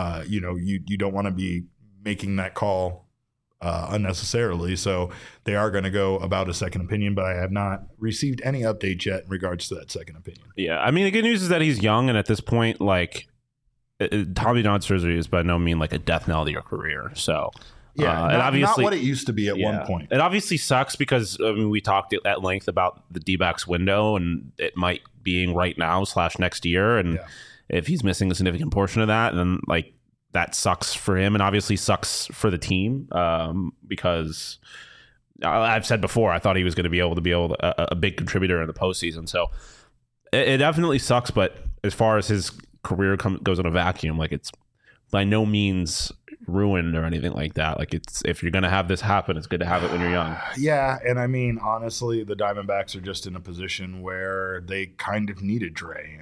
Speaker 1: you don't want to be making that call unnecessarily. So they are going to go about a second opinion, but I have not received any update yet in regards to that second opinion.
Speaker 2: Yeah. I mean, the good news is that he's young. And at this point, like, Tommy John surgery is by no means like a death knell to your career. So,
Speaker 1: yeah, and obviously, not what it used to be at one point.
Speaker 2: It obviously sucks because we talked at length about the D-backs window, and it might being right now / next year. And if he's missing a significant portion of that, then like that sucks for him, and obviously sucks for the team because I've said before I thought he was going to be a big contributor in the postseason. So it definitely sucks. But as far as his career goes in a vacuum, like it's by no means ruined or anything like that. Like, it's, if you're going to have this happen, it's good to have it when you're young.
Speaker 1: Yeah. And I mean, honestly, the Diamondbacks are just in a position where they kind of needed Dre.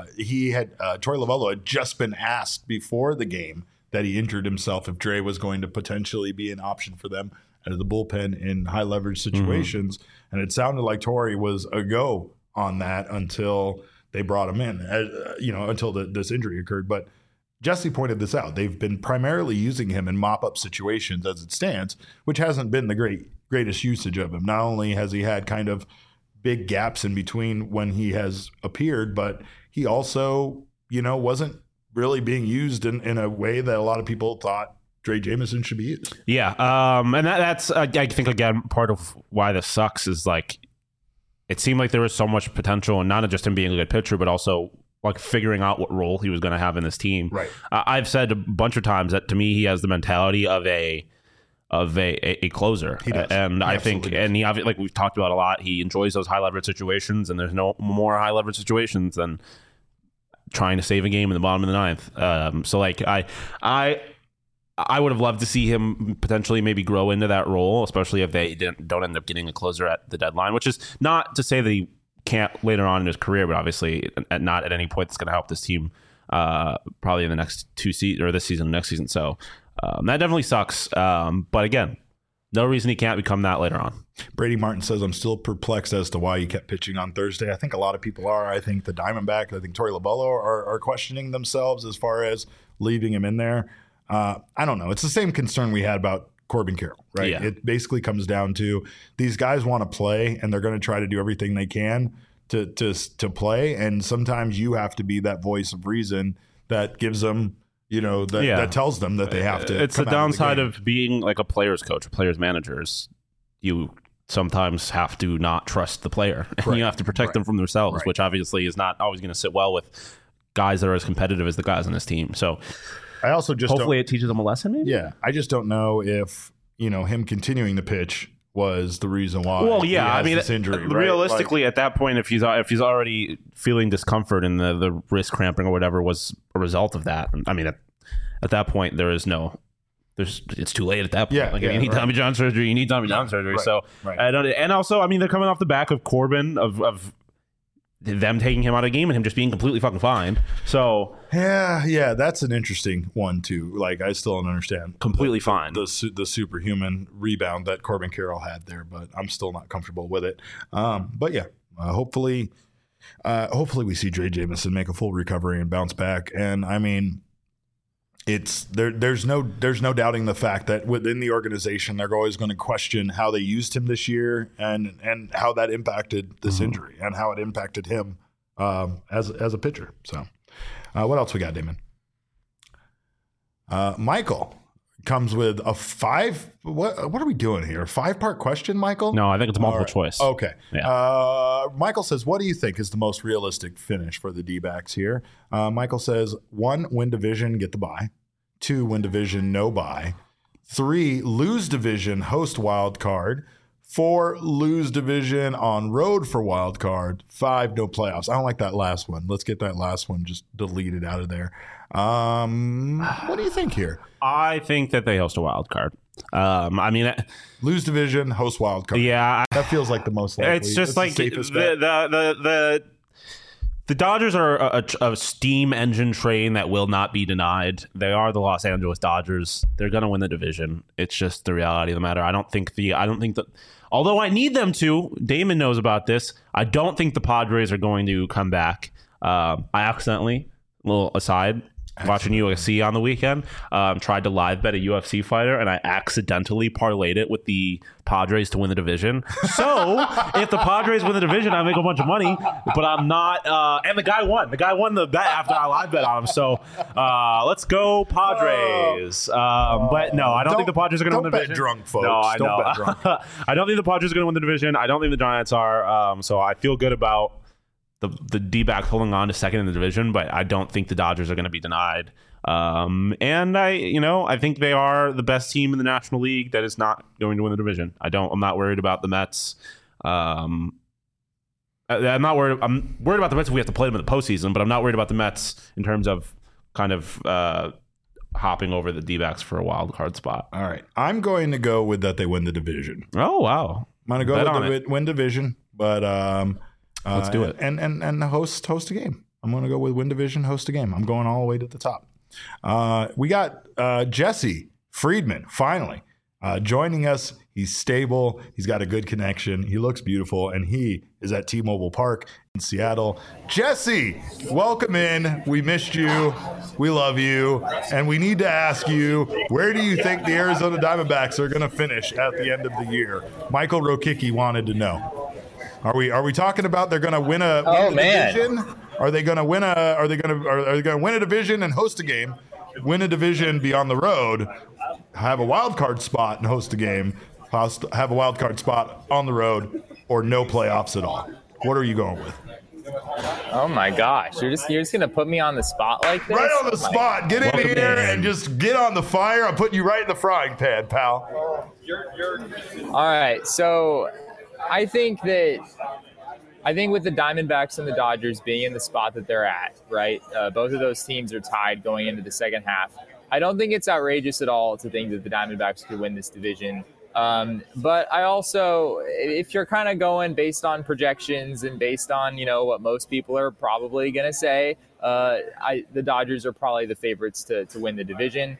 Speaker 1: Torey Lovullo had just been asked before the game that he injured himself if Dre was going to potentially be an option for them out of the bullpen in high leverage situations. Mm-hmm. And it sounded like Torey was a go on that until they brought him in, until this injury occurred. But Jesse pointed this out. They've been primarily using him in mop-up situations as it stands, which hasn't been the greatest usage of him. Not only has he had kind of big gaps in between when he has appeared, but he also, wasn't really being used in a way that a lot of people thought Drey Jameson should be used.
Speaker 2: Yeah, and that's, I think, again, part of why this sucks is, like, it seemed like there was so much potential, and not just him being a good pitcher, but also like figuring out what role he was going to have in this team.
Speaker 1: Right.
Speaker 2: I've said a bunch of times that to me he has the mentality of a closer.
Speaker 1: He does.
Speaker 2: And I think, and he, like we've talked about a lot, he enjoys those high leverage situations, and there's no more high leverage situations than trying to save a game in the bottom of the ninth. So like I would have loved to see him potentially maybe grow into that role, especially if they don't end up getting a closer at the deadline, which is not to say that he can't later on in his career, but obviously not at any point that's going to help this team probably in the next two seasons, or this season, next season. So that definitely sucks. But again, no reason he can't become that later on.
Speaker 1: Brady Martin says, I'm still perplexed as to why he kept pitching on Thursday. I think a lot of people are. I think the Diamondbacks, I think Torey Lovullo are questioning themselves as far as leaving him in there. I don't know. It's the same concern we had about Corbin Carroll, right?
Speaker 2: Yeah.
Speaker 1: It basically comes down to these guys want to play, and they're going to try to do everything they can to play. And sometimes you have to be that voice of reason that gives them, that tells them that they have to.
Speaker 2: It's the downside of being like a player's coach, a player's manager. You sometimes have to not trust the player, and you have to protect them from themselves, which obviously is not always going to sit well with guys that are as competitive as the guys on this team. So
Speaker 1: I also just
Speaker 2: hopefully it teaches them a lesson. Maybe.
Speaker 1: Yeah, I just don't know if him continuing to pitch was the reason why.
Speaker 2: Well, yeah,
Speaker 1: he has
Speaker 2: I mean,
Speaker 1: this injury.
Speaker 2: Realistically, at that point, if he's already feeling discomfort and the wrist cramping or whatever was a result of that, I mean, at that point it's too late at that point.
Speaker 1: Yeah,
Speaker 2: if you need Tommy John surgery, you need Tommy John surgery.
Speaker 1: Right,
Speaker 2: so and also, I mean, they're coming off the back of Corbin of them taking him out of the game and him just being completely fucking fine. So
Speaker 1: yeah, that's an interesting one too. Like, I still don't understand
Speaker 2: completely fine
Speaker 1: the superhuman rebound that Corbin Carroll had there, but I'm still not comfortable with it. But yeah, hopefully we see Drey Jameson make a full recovery and bounce back. And I mean, there's no doubting the fact that within the organization they're always going to question how they used him this year and how that impacted this injury and how it impacted him as a pitcher. So what else we got, Damon? Michael comes with a what are we doing here? A 5-part question, Michael?
Speaker 2: No, I think it's multiple choice.
Speaker 1: Okay.
Speaker 2: Yeah.
Speaker 1: Michael says, what do you think is the most realistic finish for the D-backs here? Michael says, 1, win division, get the bye. 2, win division, no bye. 3, lose division, host wild card. 4, lose division on road for wild card. 5, no playoffs. I don't like that last one. Let's get that last one just deleted out of there. What do you think here?
Speaker 2: I think that they host a wild card. I mean,
Speaker 1: lose division, host wild card.
Speaker 2: Yeah,
Speaker 1: that feels like the most likely.
Speaker 2: It's just like the Dodgers are a steam engine train that will not be denied. They are the Los Angeles Dodgers. They're going to win the division. It's just the reality of the matter. I don't think that. Although I need them to. Damon knows about this. I don't think the Padres are going to come back. I accidentally, a little aside, watching UFC on the weekend, tried to live bet a UFC fighter, and I accidentally parlayed it with the Padres to win the division. So if the Padres win the division, I make a bunch of money, but I'm not. And the guy won. The guy won the bet after I live bet on him. So let's go Padres. But no, I don't think the Padres are going to win the division.
Speaker 1: Don't bet drunk, folks.
Speaker 2: No, I
Speaker 1: don't
Speaker 2: know.
Speaker 1: Bet drunk.
Speaker 2: I don't think the Padres are going to win the division. I don't think the Giants are. So I feel good about the D-backs holding on to second in the division, but I don't think the Dodgers are going to be denied. And I think they are the best team in the National League that is not going to win the division. I'm not worried about the Mets. I'm worried about the Mets if we have to play them in the postseason, but I'm not worried about the Mets in terms of kind of hopping over the D-backs for a wild card spot.
Speaker 1: All right. I'm going to go with that they win the division.
Speaker 2: Oh, wow.
Speaker 1: I'm going to go with the win division, but
Speaker 2: let's do it.
Speaker 1: And host a game. I'm going to go with win division, host a game. I'm going all the way to the top. We got Jesse Friedman finally joining us. He's stable. He's got a good connection. He looks beautiful, and he is at T-Mobile Park in Seattle. Jesse, welcome in. We missed you. We love you. And we need to ask you, where do you think the Arizona Diamondbacks are going to finish at the end of the year? Michael Rokicki wanted to know. Are we talking about they're going to win a division? Are they going to win a division and host a game? Win a division, be on the road, have a wild card spot and host a game, have a wild card spot on the road, or no playoffs at all? What are you going with?
Speaker 6: Oh my gosh, you're just gonna put me on the spot like this?
Speaker 1: Right on the spot. Get in here and just get on the fire. I'm putting you right in the frying pan, pal.
Speaker 6: All right, so I think with the Diamondbacks and the Dodgers being in the spot that they're at, right? Both of those teams are tied going into the second half. I don't think it's outrageous at all to think that the Diamondbacks could win this division. But I also, if you're kind of going based on projections and based on, what most people are probably going to say, the Dodgers are probably the favorites to win the division.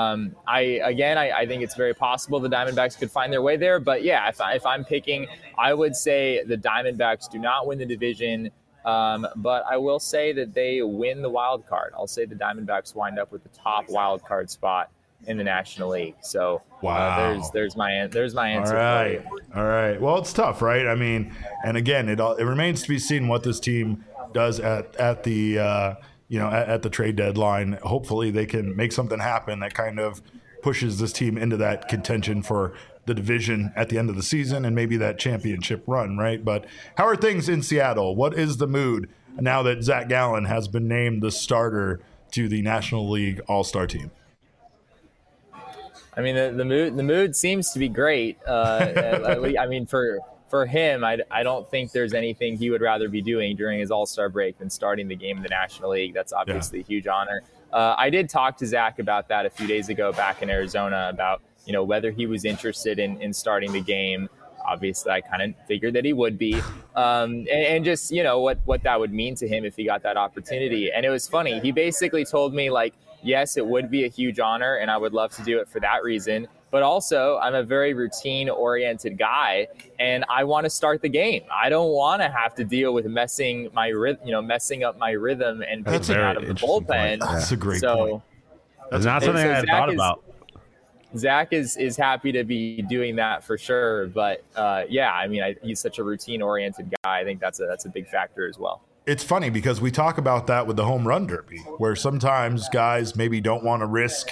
Speaker 6: I think it's very possible the Diamondbacks could find their way there. But yeah, if I'm picking, I would say the Diamondbacks do not win the division. But I will say that they win the wild card. I'll say the Diamondbacks wind up with the top wild card spot in the National League. So
Speaker 1: wow.
Speaker 6: There's my answer.
Speaker 1: All right. Well, it's tough, right? I mean, and again, it remains to be seen what this team does at the trade deadline. Hopefully they can make something happen that kind of pushes this team into that contention for the division at the end of the season and maybe that championship run, right? But how are things in Seattle? What is the mood now that Zach Gallen has been named the starter to the National League All-Star team?
Speaker 6: I mean, the mood seems to be great. I mean, for him, I don't think there's anything he would rather be doing during his All-Star break than starting the game in the National League. That's obviously a huge honor. I did talk to Zach about that a few days ago back in Arizona about, whether he was interested in starting the game. Obviously, I kind of figured that he would be. And just, what that would mean to him if he got that opportunity. And it was funny. He basically told me, yes, it would be a huge honor, and I would love to do it for that reason. But also, I'm a very routine-oriented guy, and I want to start the game. I don't want to have to deal with messing up my rhythm and pitching out of the bullpen.
Speaker 1: That's a great point.
Speaker 2: That's not something I had thought about.
Speaker 6: Zach is happy to be doing that for sure. But he's such a routine-oriented guy. I think that's a big factor as well.
Speaker 1: It's funny because we talk about that with the home run derby, where sometimes guys maybe don't want to risk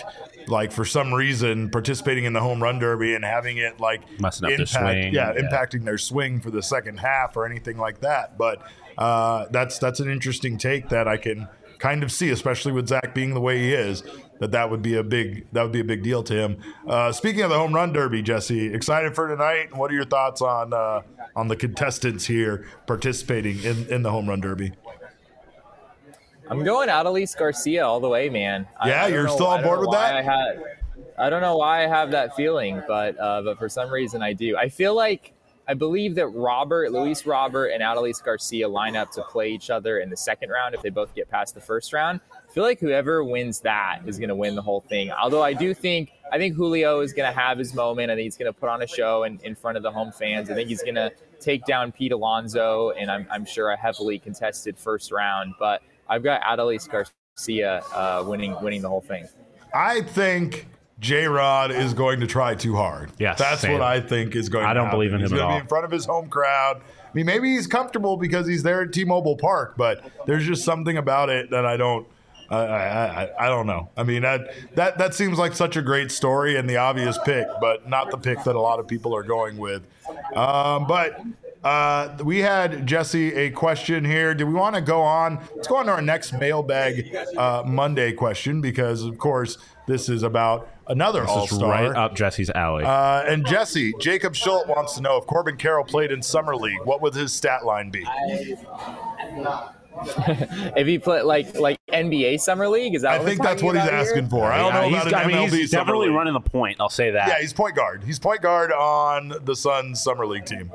Speaker 1: like for some reason participating in the home run derby and having it like impacting their swing for the second half or anything like that. But that's an interesting take that I can kind of see, especially with Zach being the way he is, that would be a big deal to him. Speaking of the home run derby, Jesse, excited for tonight? What are your thoughts on the contestants here participating in the home run derby?
Speaker 6: I'm going Adolis Garcia all the way, man.
Speaker 1: Yeah, you're still on board with that?
Speaker 6: I don't know why I have that feeling, but for some reason I do. I believe that Luis Robert and Adolis Garcia line up to play each other in the second round if they both get past the first round. I feel like whoever wins that is going to win the whole thing. Although I think Julio is going to have his moment. I think he's going to put on a show in front of the home fans. I think he's going to take down Pete Alonso, and I'm sure a heavily contested first round. But I've got Adolis Garcia winning the whole thing.
Speaker 1: I think J-Rod is going to try too hard.
Speaker 2: Yes,
Speaker 1: that's what I think is going to happen.
Speaker 2: I don't believe in him at all.
Speaker 1: He's going to be in front of his home crowd. I mean, maybe he's comfortable because he's there at T-Mobile Park, but there's just something about it that I don't know. I mean, that seems like such a great story and the obvious pick, but not the pick that a lot of people are going with. But we had, Jesse, a question here. Do we want to go on? Let's go on to our next Mailbag Monday question because, of course, this is about another All-Star.
Speaker 2: Right up Jesse's alley.
Speaker 1: And Jesse, Jacob Schultz wants to know if Corbin Carroll played in Summer League, what would his stat line be?
Speaker 6: If he played like NBA Summer League, is that?
Speaker 1: I think that's what he's asking for. I don't know about an MLB
Speaker 2: he's definitely running the point. I'll say that.
Speaker 1: Yeah, he's point guard. He's point guard on the Suns Summer League team.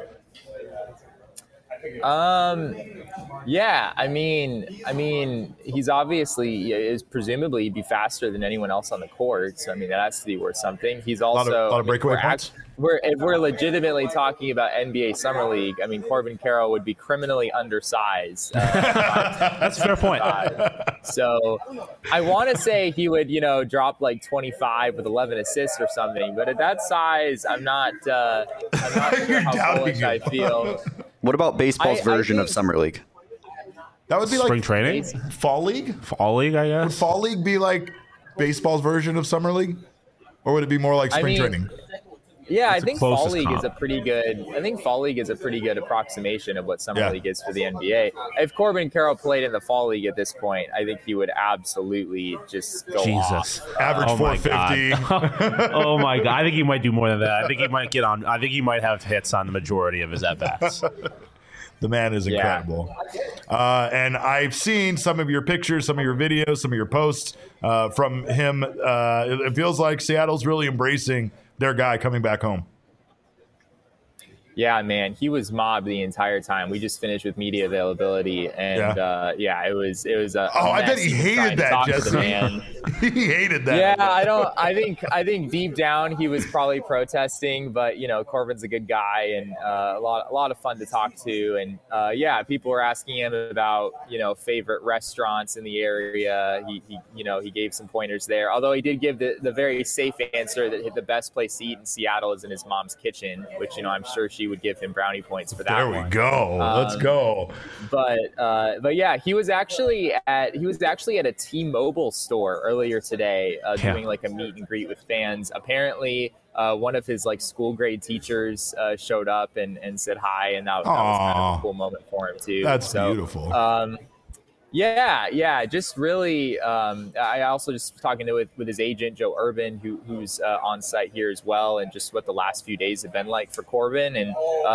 Speaker 6: Yeah, I mean, he's obviously is presumably be faster than anyone else on the court. So I mean, that has to be worth something. He's also
Speaker 1: a lot of breakaway points.
Speaker 6: If we're legitimately talking about NBA Summer League, I mean, Corbin Carroll would be criminally undersized.
Speaker 2: That's a fair point.
Speaker 6: So I want to say he would, drop like 25 with 11 assists or something. But at that size, I'm not sure how bullish I feel.
Speaker 3: What about baseball's version of Summer League?
Speaker 1: That would be
Speaker 2: spring
Speaker 1: like
Speaker 2: training?
Speaker 1: Fall League?
Speaker 2: Fall League, I guess.
Speaker 1: Would Fall League be like baseball's version of Summer League? Or would it be more like spring training?
Speaker 6: Yeah, I think Fall League is a pretty good. I think Fall League is a pretty good approximation of what Summer League is for the NBA. If Corbin Carroll played in the Fall League at this point, I think he would absolutely just go off.
Speaker 1: Average 450.
Speaker 2: Oh my God! I think he might do more than that. I think he might get on. I think he might have hits on the majority of his at bats.
Speaker 1: The man is incredible. And I've seen some of your pictures, some of your videos, some of your posts from him. It feels like Seattle's really embracing their guy coming back home.
Speaker 6: Yeah, man, he was mobbed the entire time. We just finished with media availability, and it was.
Speaker 1: I bet he hated that, Jesse. He hated that.
Speaker 6: Yeah, I think deep down he was probably protesting, but Corbin's a good guy and a lot of fun to talk to, and people were asking him about favorite restaurants in the area. He gave some pointers there. Although he did give the very safe answer that the best place to eat in Seattle is in his mom's kitchen, which I'm sure she would give him brownie points for that.
Speaker 1: There we go. Let's go.
Speaker 6: But yeah, he was actually at a T-Mobile store earlier today doing like a meet and greet with fans. Apparently, one of his like school grade teachers showed up and said hi, and that was kind of a cool moment for him too.
Speaker 1: That's beautiful.
Speaker 6: Yeah. Just really, I also just talking with his agent, Joe Urban, who's on site here as well, and just what the last few days have been like for Corbin. And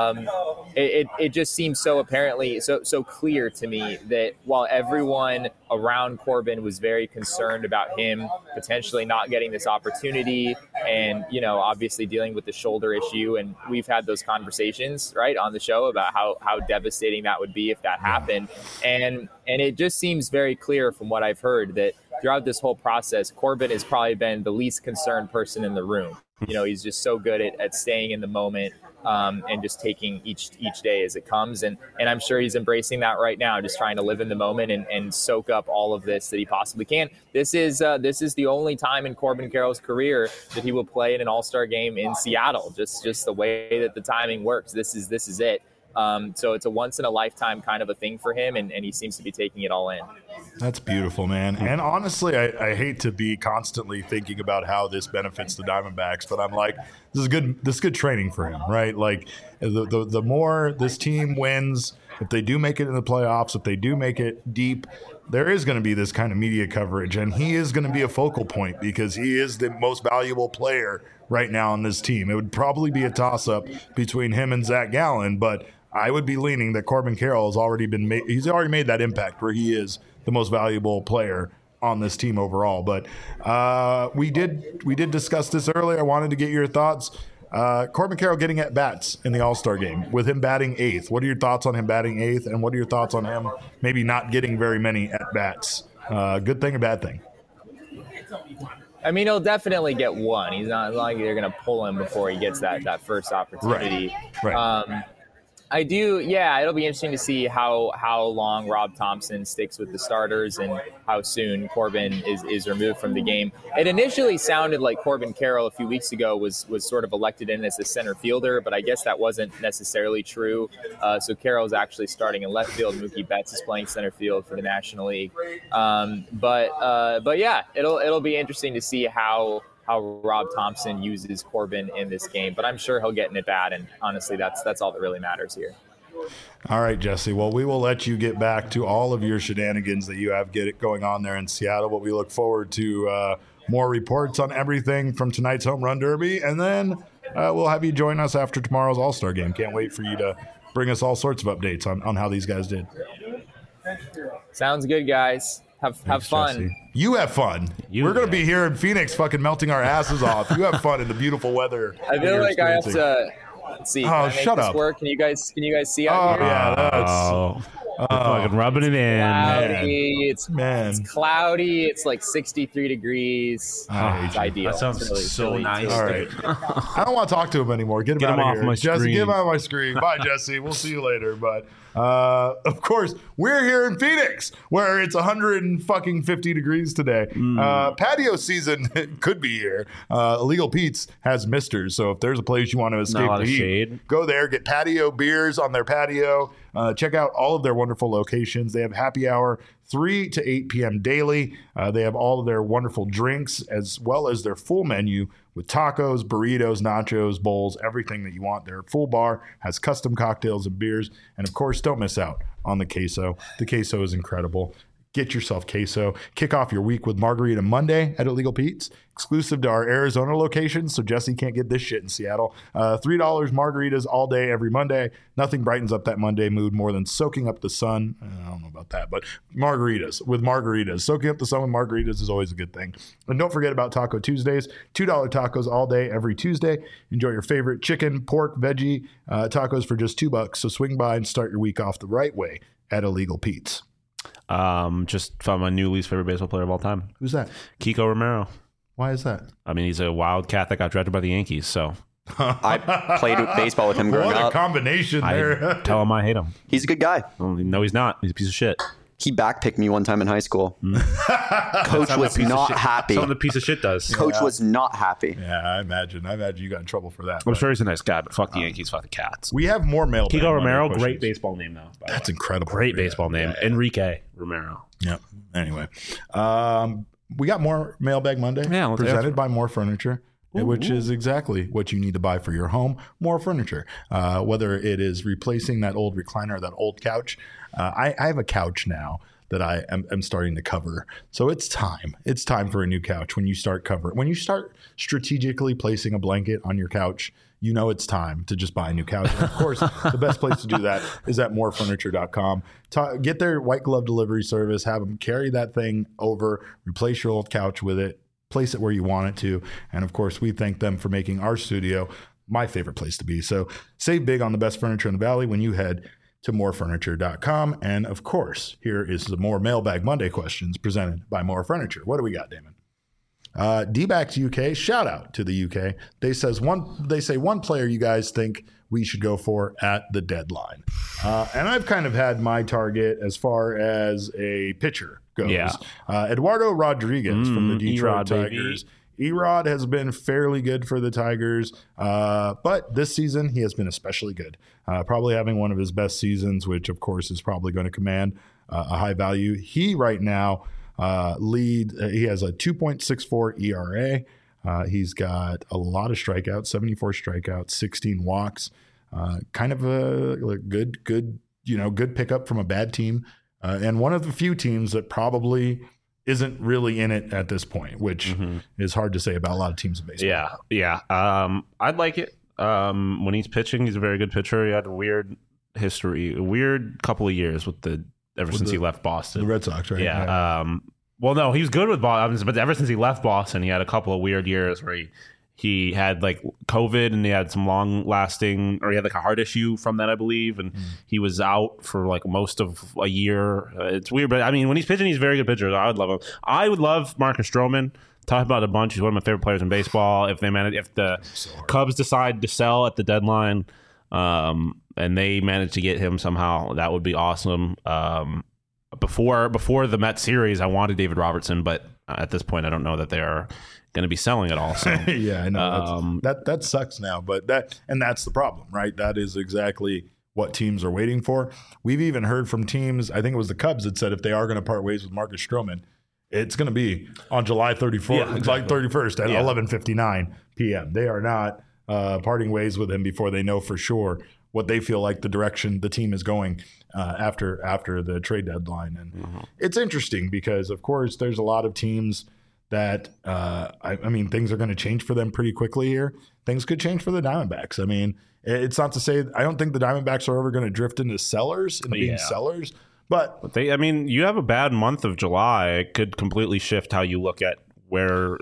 Speaker 6: it just seems so apparently so clear to me that while everyone around Corbin was very concerned about him potentially not getting this opportunity and, obviously dealing with the shoulder issue. And we've had those conversations, right, on the show about how devastating that would be if that happened. And it just seems very clear from what I've heard that throughout this whole process, Corbin has probably been the least concerned person in the room. He's just so good at staying in the moment and just taking each day as it comes. And I'm sure he's embracing that right now, just trying to live in the moment and soak up all of this that he possibly can. This is the only time in Corbin Carroll's career that he will play in an All-Star game in Seattle. Just the way that the timing works. This is it. So it's a once in a lifetime kind of a thing for him, and he seems to be taking it all in.
Speaker 1: That's beautiful, man. And honestly, I hate to be constantly thinking about how this benefits the Diamondbacks, but I'm like, this is good training for him, right? Like the more this team wins, if they do make it in the playoffs, if they do make it deep, there is going to be this kind of media coverage, and he is going to be a focal point because he is the most valuable player right now on this team. It would probably be a toss-up between him and Zach Gallen, but I would be leaning that Corbin Carroll has already he's already made that impact where he is the most valuable player on this team overall. But we did discuss this earlier. I wanted to get your thoughts. Corbin Carroll getting at bats in the All-Star game with him batting eighth. What are your thoughts on him batting eighth, and what are your thoughts on him maybe not getting very many at bats? Good thing or bad thing?
Speaker 6: I mean, he'll definitely get one. He's not like they're going to pull him before he gets that first opportunity.
Speaker 1: Right.
Speaker 6: I do, yeah. It'll be interesting to see how long Rob Thompson sticks with the starters and how soon Corbin is removed from the game. It initially sounded like Corbin Carroll a few weeks ago was sort of elected in as a center fielder, but I guess that wasn't necessarily true. So Carroll's actually starting in left field. Mookie Betts is playing center field for the National League. But yeah, it'll be interesting to see how Rob Thompson uses Corbin in this game, but I'm sure he'll get an at bat, and honestly, that's all that really matters here.
Speaker 1: All right, Jesse. Well, we will let you get back to all of your shenanigans that you have going on there in Seattle, but we look forward to more reports on everything from tonight's Home Run Derby, and then we'll have you join us after tomorrow's All-Star game. Can't wait for you to bring us all sorts of updates on how these guys did.
Speaker 6: Sounds good, guys. Have fun.
Speaker 1: Jesse. You have fun. We're going to be here in Phoenix fucking melting our asses off. You have fun in the beautiful weather.
Speaker 6: I feel like I have to... Let's see.
Speaker 1: Oh, shut up.
Speaker 6: Work? Can you guys see out here?
Speaker 1: Yeah,
Speaker 2: fucking rubbing it in.
Speaker 6: Cloudy. It's cloudy. It's like 63 degrees. It's ideal.
Speaker 2: That sounds so nice.
Speaker 1: All right. I don't want to talk to him anymore. Get him out of here. Jesse, get him out of my screen. Bye, Jesse. We'll see you later. But of course, we're here in Phoenix where it's 150 degrees today. Patio season could be here. Illegal Pete's has misters. So if there's a place you want to escape the heat, go there. Get patio beers on their patio. Check out all of their wonderful locations. They have happy hour 3 to 8 p.m. daily. They have all of their wonderful drinks as well as their full menu with tacos, burritos, nachos, bowls, everything that you want. Their full bar has custom cocktails and beers. And of course, don't miss out on the queso. The queso is incredible. Get yourself queso. Kick off your week with Margarita Monday at Illegal Pete's, exclusive to our Arizona location, so Jesse can't get this shit in Seattle. $3 margaritas all day, every Monday. Nothing brightens up that Monday mood more than soaking up the sun. I don't know about that, but margaritas. Soaking up the sun with margaritas is always a good thing. And don't forget about Taco Tuesdays. $2 tacos all day, every Tuesday. Enjoy your favorite chicken, pork, veggie tacos for just $2. So swing by and start your week off the right way at Illegal Pete's.
Speaker 2: Just found my new least favorite baseball player of all time.
Speaker 1: Who's that?
Speaker 2: Kiko Romero.
Speaker 1: Why is that?
Speaker 2: I mean, he's a wildcat that got drafted by the Yankees, so.
Speaker 3: I played baseball with him growing up.
Speaker 1: What a combination there.
Speaker 2: I tell him I hate him.
Speaker 3: He's a good guy.
Speaker 2: No, he's not. He's a piece of shit.
Speaker 3: He backpicked me one time in high school. Coach was not happy.
Speaker 2: Something the piece of shit does.
Speaker 3: Coach was not happy.
Speaker 1: Yeah, I imagine you got in trouble for that.
Speaker 2: I'm sure he's a nice guy, but fuck the Yankees, fuck the Cats.
Speaker 1: We have more mail.
Speaker 2: Kiko Romero, great baseball name though.
Speaker 1: That's incredible.
Speaker 2: Great baseball name. Yeah. Enrique Romero.
Speaker 1: Yep. Anyway, we got more Mailbag Monday presented by More Furniture. Which is exactly what you need to buy for your home. More furniture. Whether it is replacing that old recliner, that old couch. I have a couch now that I am starting to cover. So it's time. It's time for a new couch. When you start strategically placing a blanket on your couch, you know it's time to just buy a new couch. And of course, the best place to do that is at morefurniture.com. Get their white glove delivery service. Have them carry that thing over. Replace your old couch with it. Place it where you want it to. And of course, we thank them for making our studio my favorite place to be. So save big on the best furniture in the Valley when you head to morefurniture.com. And of course, here is the More Mailbag Monday questions presented by More Furniture. What do we got, Damon? D-backs UK, shout out to the UK. They say one player you guys think we should go for at the deadline. And I've kind of had my target as far as a pitcher goes.
Speaker 2: Yeah.
Speaker 1: Eduardo Rodriguez from the Detroit Tigers Erod has been fairly good for the Tigers, but this season he has been especially good. Probably having one of his best seasons, which of course is probably going to command a high value. He right now he has a 2.64 ERA. He's got a lot of strikeouts, 74 strikeouts, 16 walks. Kind of a good pickup from a bad team, and one of the few teams that probably isn't really in it at this point, which is hard to say about a lot of teams in baseball.
Speaker 2: Yeah. I'd like it. When he's pitching, he's a very good pitcher. He had a weird couple of years ever since he left Boston.
Speaker 1: The Red Sox, right?
Speaker 2: Yeah. Well, no, he was good with Boston, but ever since he left Boston, he had a couple of weird years where he had like COVID and he had some long-lasting, or he had like a heart issue from that, I believe, and he was out for like most of a year. It's weird, but I mean, when he's pitching, he's a very good pitcher. I would love him. I would love Marcus Stroman. Talk about a bunch. He's one of my favorite players in baseball. If the Cubs decide to sell at the deadline, and they manage to get him somehow, that would be awesome. Before the Mets series, I wanted David Robertson, but at this point, I don't know that they are going to be selling it all. So.
Speaker 1: Yeah, I know that sucks now, but that's the problem, right? That is exactly what teams are waiting for. We've even heard from teams. I think it was the Cubs that said if they are going to part ways with Marcus Stroman, it's going to be on July 34th, like 31st at 11:59 p.m. They are not parting ways with him before they know for sure what they feel like the direction the team is going after the trade deadline. And it's interesting because, of course, there's a lot of teams that, I mean, things are going to change for them pretty quickly here. Things could change for the Diamondbacks. I mean, it's not to say – I don't think the Diamondbacks are ever going to drift into sellers and being sellers. But
Speaker 2: you have a bad month of July. It could completely shift how you look at where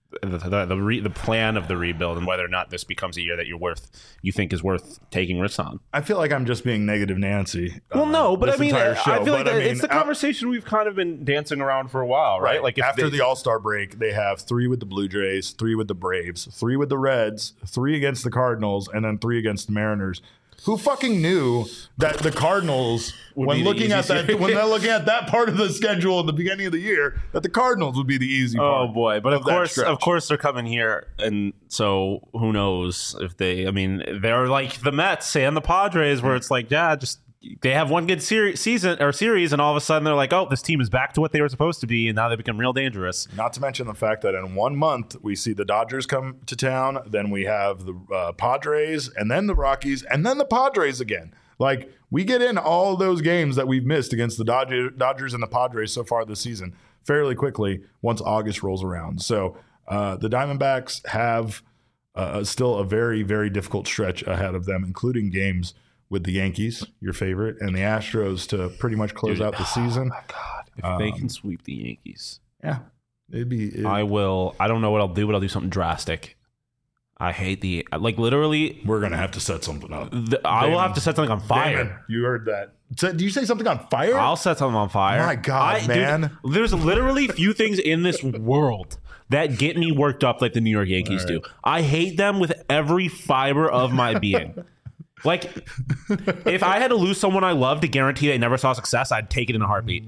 Speaker 2: the plan of the rebuild and whether or not this becomes a year that you think is worth taking risks on.
Speaker 1: I feel like I'm just being negative Nancy.
Speaker 2: Well, no, but I mean, I feel like it's the conversation we've kind of been dancing around for a while, right?
Speaker 1: Like after the All-Star break, they have 3 with the Blue Jays, 3 with the Braves, 3 with the Reds, 3 against the Cardinals, and then 3 against the Mariners. Who fucking knew that the Cardinals, when they're looking at that part of the schedule at the beginning of the year, that the Cardinals would be the easy part?
Speaker 2: Oh boy! But of course, they're coming here, and so who knows if they? I mean, they're like the Mets and the Padres, where it's like, they have one good series, and all of a sudden they're like, oh, this team is back to what they were supposed to be, and now they become real dangerous.
Speaker 1: Not to mention the fact that in 1 month we see the Dodgers come to town, then we have the Padres, and then the Rockies, and then the Padres again. Like, we get in all those games that we've missed against the Dodgers and the Padres so far this season fairly quickly once August rolls around. So the Diamondbacks have still a very, very difficult stretch ahead of them, including games with the Yankees, your favorite, and the Astros to pretty much close out the season.
Speaker 2: Oh my God. If they can sweep the Yankees.
Speaker 1: Yeah.
Speaker 2: I will. I don't know what I'll do, but I'll do something drastic. I hate literally.
Speaker 1: We're going to have to set something up.
Speaker 2: I will have to set something on fire.
Speaker 1: Damon, you heard that. Did you say something on fire?
Speaker 2: I'll set something on fire.
Speaker 1: My God, man.
Speaker 2: Dude, there's literally few things in this world that get me worked up like the New York Yankees do. I hate them with every fiber of my being. Like, if I had to lose someone I love to guarantee they never saw success, I'd take it in a heartbeat.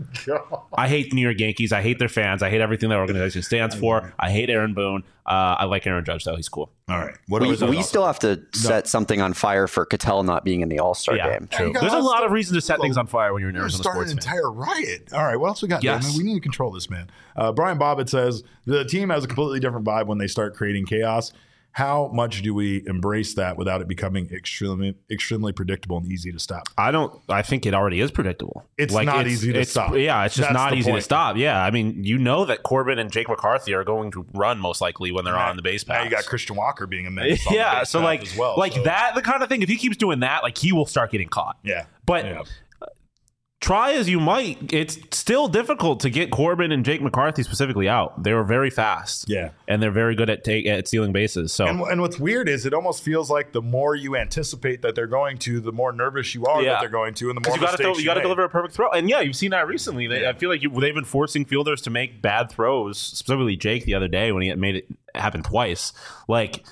Speaker 2: I hate the New York Yankees. I hate their fans. I hate everything their organization stands for. I hate Aaron Boone. I like Aaron Judge, though. He's cool.
Speaker 1: All right.
Speaker 3: We still have to set something on fire for Cattell not being in the All-Star game.
Speaker 2: There's a lot of reason to set things on fire when you're an Arizona sports fan.
Speaker 1: Start an entire riot. All right. What else we got?
Speaker 2: Yes.
Speaker 1: We need to control this, man. Brian Bobbitt says the team has a completely different vibe when they start creating chaos. How much do we embrace that without it becoming extremely predictable and easy to stop?
Speaker 2: I think it already is predictable.
Speaker 1: It's not easy to stop.
Speaker 2: Yeah, it's just not easy to stop. Yeah, I mean, you know that Corbin and Jake McCarthy are going to run most likely when they're on the base pass.
Speaker 1: Now you got Christian Walker being a menace.
Speaker 2: Yeah, so like as well, that, the kind of thing. If he keeps doing that, like, he will start getting caught.
Speaker 1: Yeah,
Speaker 2: but. Try as you might, it's still difficult to get Corbin and Jake McCarthy specifically out. They were very fast.
Speaker 1: Yeah.
Speaker 2: And they're very good at stealing bases. So
Speaker 1: and what's weird is it almost feels like the more you anticipate that they're going to, the more nervous you are that they're going to, and the more mistakes
Speaker 2: you got to deliver a perfect throw. And you've seen that recently. I feel like they've been forcing fielders to make bad throws, specifically Jake the other day when he had made it happen twice. Like,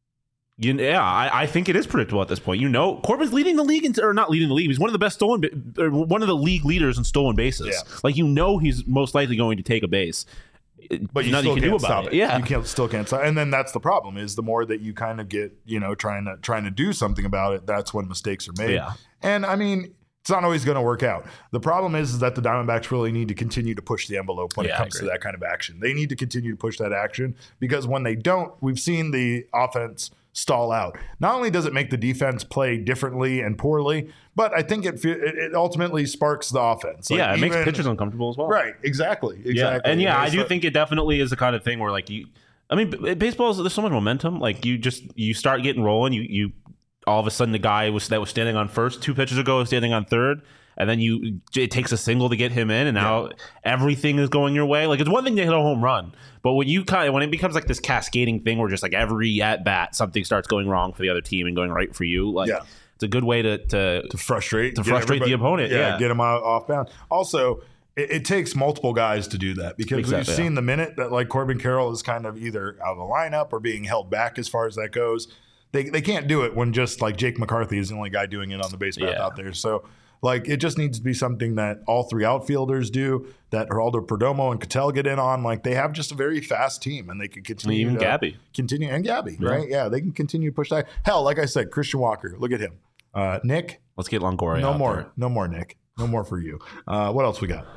Speaker 2: I think it is predictable at this point. Corbin's leading the league, or not leading the league. He's one of the best one of the league leaders in stolen bases. Yeah. Like, he's most likely going to take a base.
Speaker 1: but you still can't stop it. Yeah, you still can't stop. And then that's the problem: is the more that you kind of get, trying to do something about it, that's when mistakes are made. Yeah. And I mean, it's not always going to work out. The problem is that the Diamondbacks really need to continue to push the envelope when it comes to that kind of action. They need to continue to push that action, because when they don't, we've seen the offense stall out. Not only does it make the defense play differently and poorly, but I think it ultimately sparks the offense.
Speaker 2: It makes pitchers uncomfortable as well.
Speaker 1: Right, exactly.
Speaker 2: Yeah. And I do think it definitely is the kind of thing where baseball there's so much momentum. Like you start getting rolling, you all of a sudden the guy that was standing on first 2 pitches ago is standing on third, and then it takes a single to get him in, and now everything is going your way. Like, it's one thing to hit a home run, but when it becomes like this cascading thing where just like every at bat something starts going wrong for the other team and going right for you, it's a good way to frustrate the opponent.
Speaker 1: Get them off bound. Also, it takes multiple guys to do that, because we've seen the minute that like Corbin Carroll is kind of either out of the lineup or being held back as far as that goes. They can't do it when just like Jake McCarthy is the only guy doing it on the base path out there. So like it just needs to be something that all 3 outfielders do, that Geraldo Perdomo and Ketel get in on. Like, they have just a very fast team, and they can continue.
Speaker 2: Even Gabby.
Speaker 1: Continue, and Gabby, right? Yeah, they can continue to push that. Hell, like I said, Christian Walker, look at him. Nick.
Speaker 2: Let's get Longoria
Speaker 1: No
Speaker 2: out
Speaker 1: more.
Speaker 2: there.
Speaker 1: No more, Nick. No more for you. What else we got?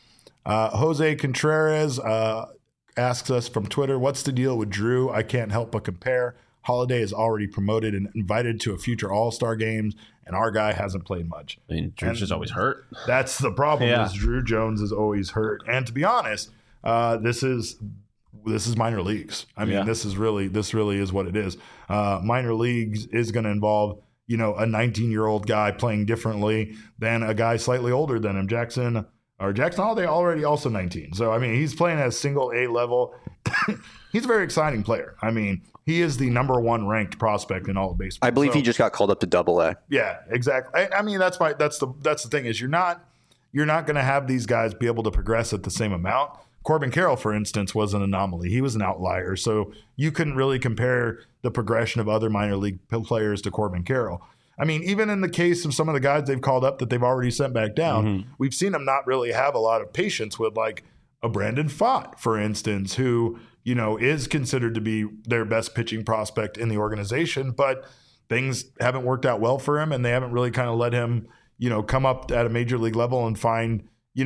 Speaker 1: Jose Contreras asks us from Twitter, what's the deal with Drew? I can't help but compare. Holiday is already promoted and invited to a future All-Star games, and our guy hasn't played much.
Speaker 2: I mean, Drew's just always hurt.
Speaker 1: That's the problem. Is Drew Jones is always hurt. And to be honest, this is minor leagues. I mean, this really is what it is. Minor leagues is going to involve, a 19-year-old guy playing differently than a guy slightly older than him. Jackson Holiday already also 19. So, I mean, he's playing at a single A level. He's a very exciting player. I mean, he is the number 1 ranked prospect in all of baseball.
Speaker 3: I believe he just got called up to Double-A.
Speaker 1: Yeah, exactly. I mean, that's the thing is you're not going to have these guys be able to progress at the same amount. Corbin Carroll, for instance, was an anomaly. He was an outlier. So you couldn't really compare the progression of other minor league players to Corbin Carroll. I mean, even in the case of some of the guys they've called up that they've already sent back down, we've seen them not really have a lot of patience with, like a Brandon Pfaadt, for instance, who, is considered to be their best pitching prospect in the organization, but things haven't worked out well for him, and they haven't really kind of let him, come up at a major league level and find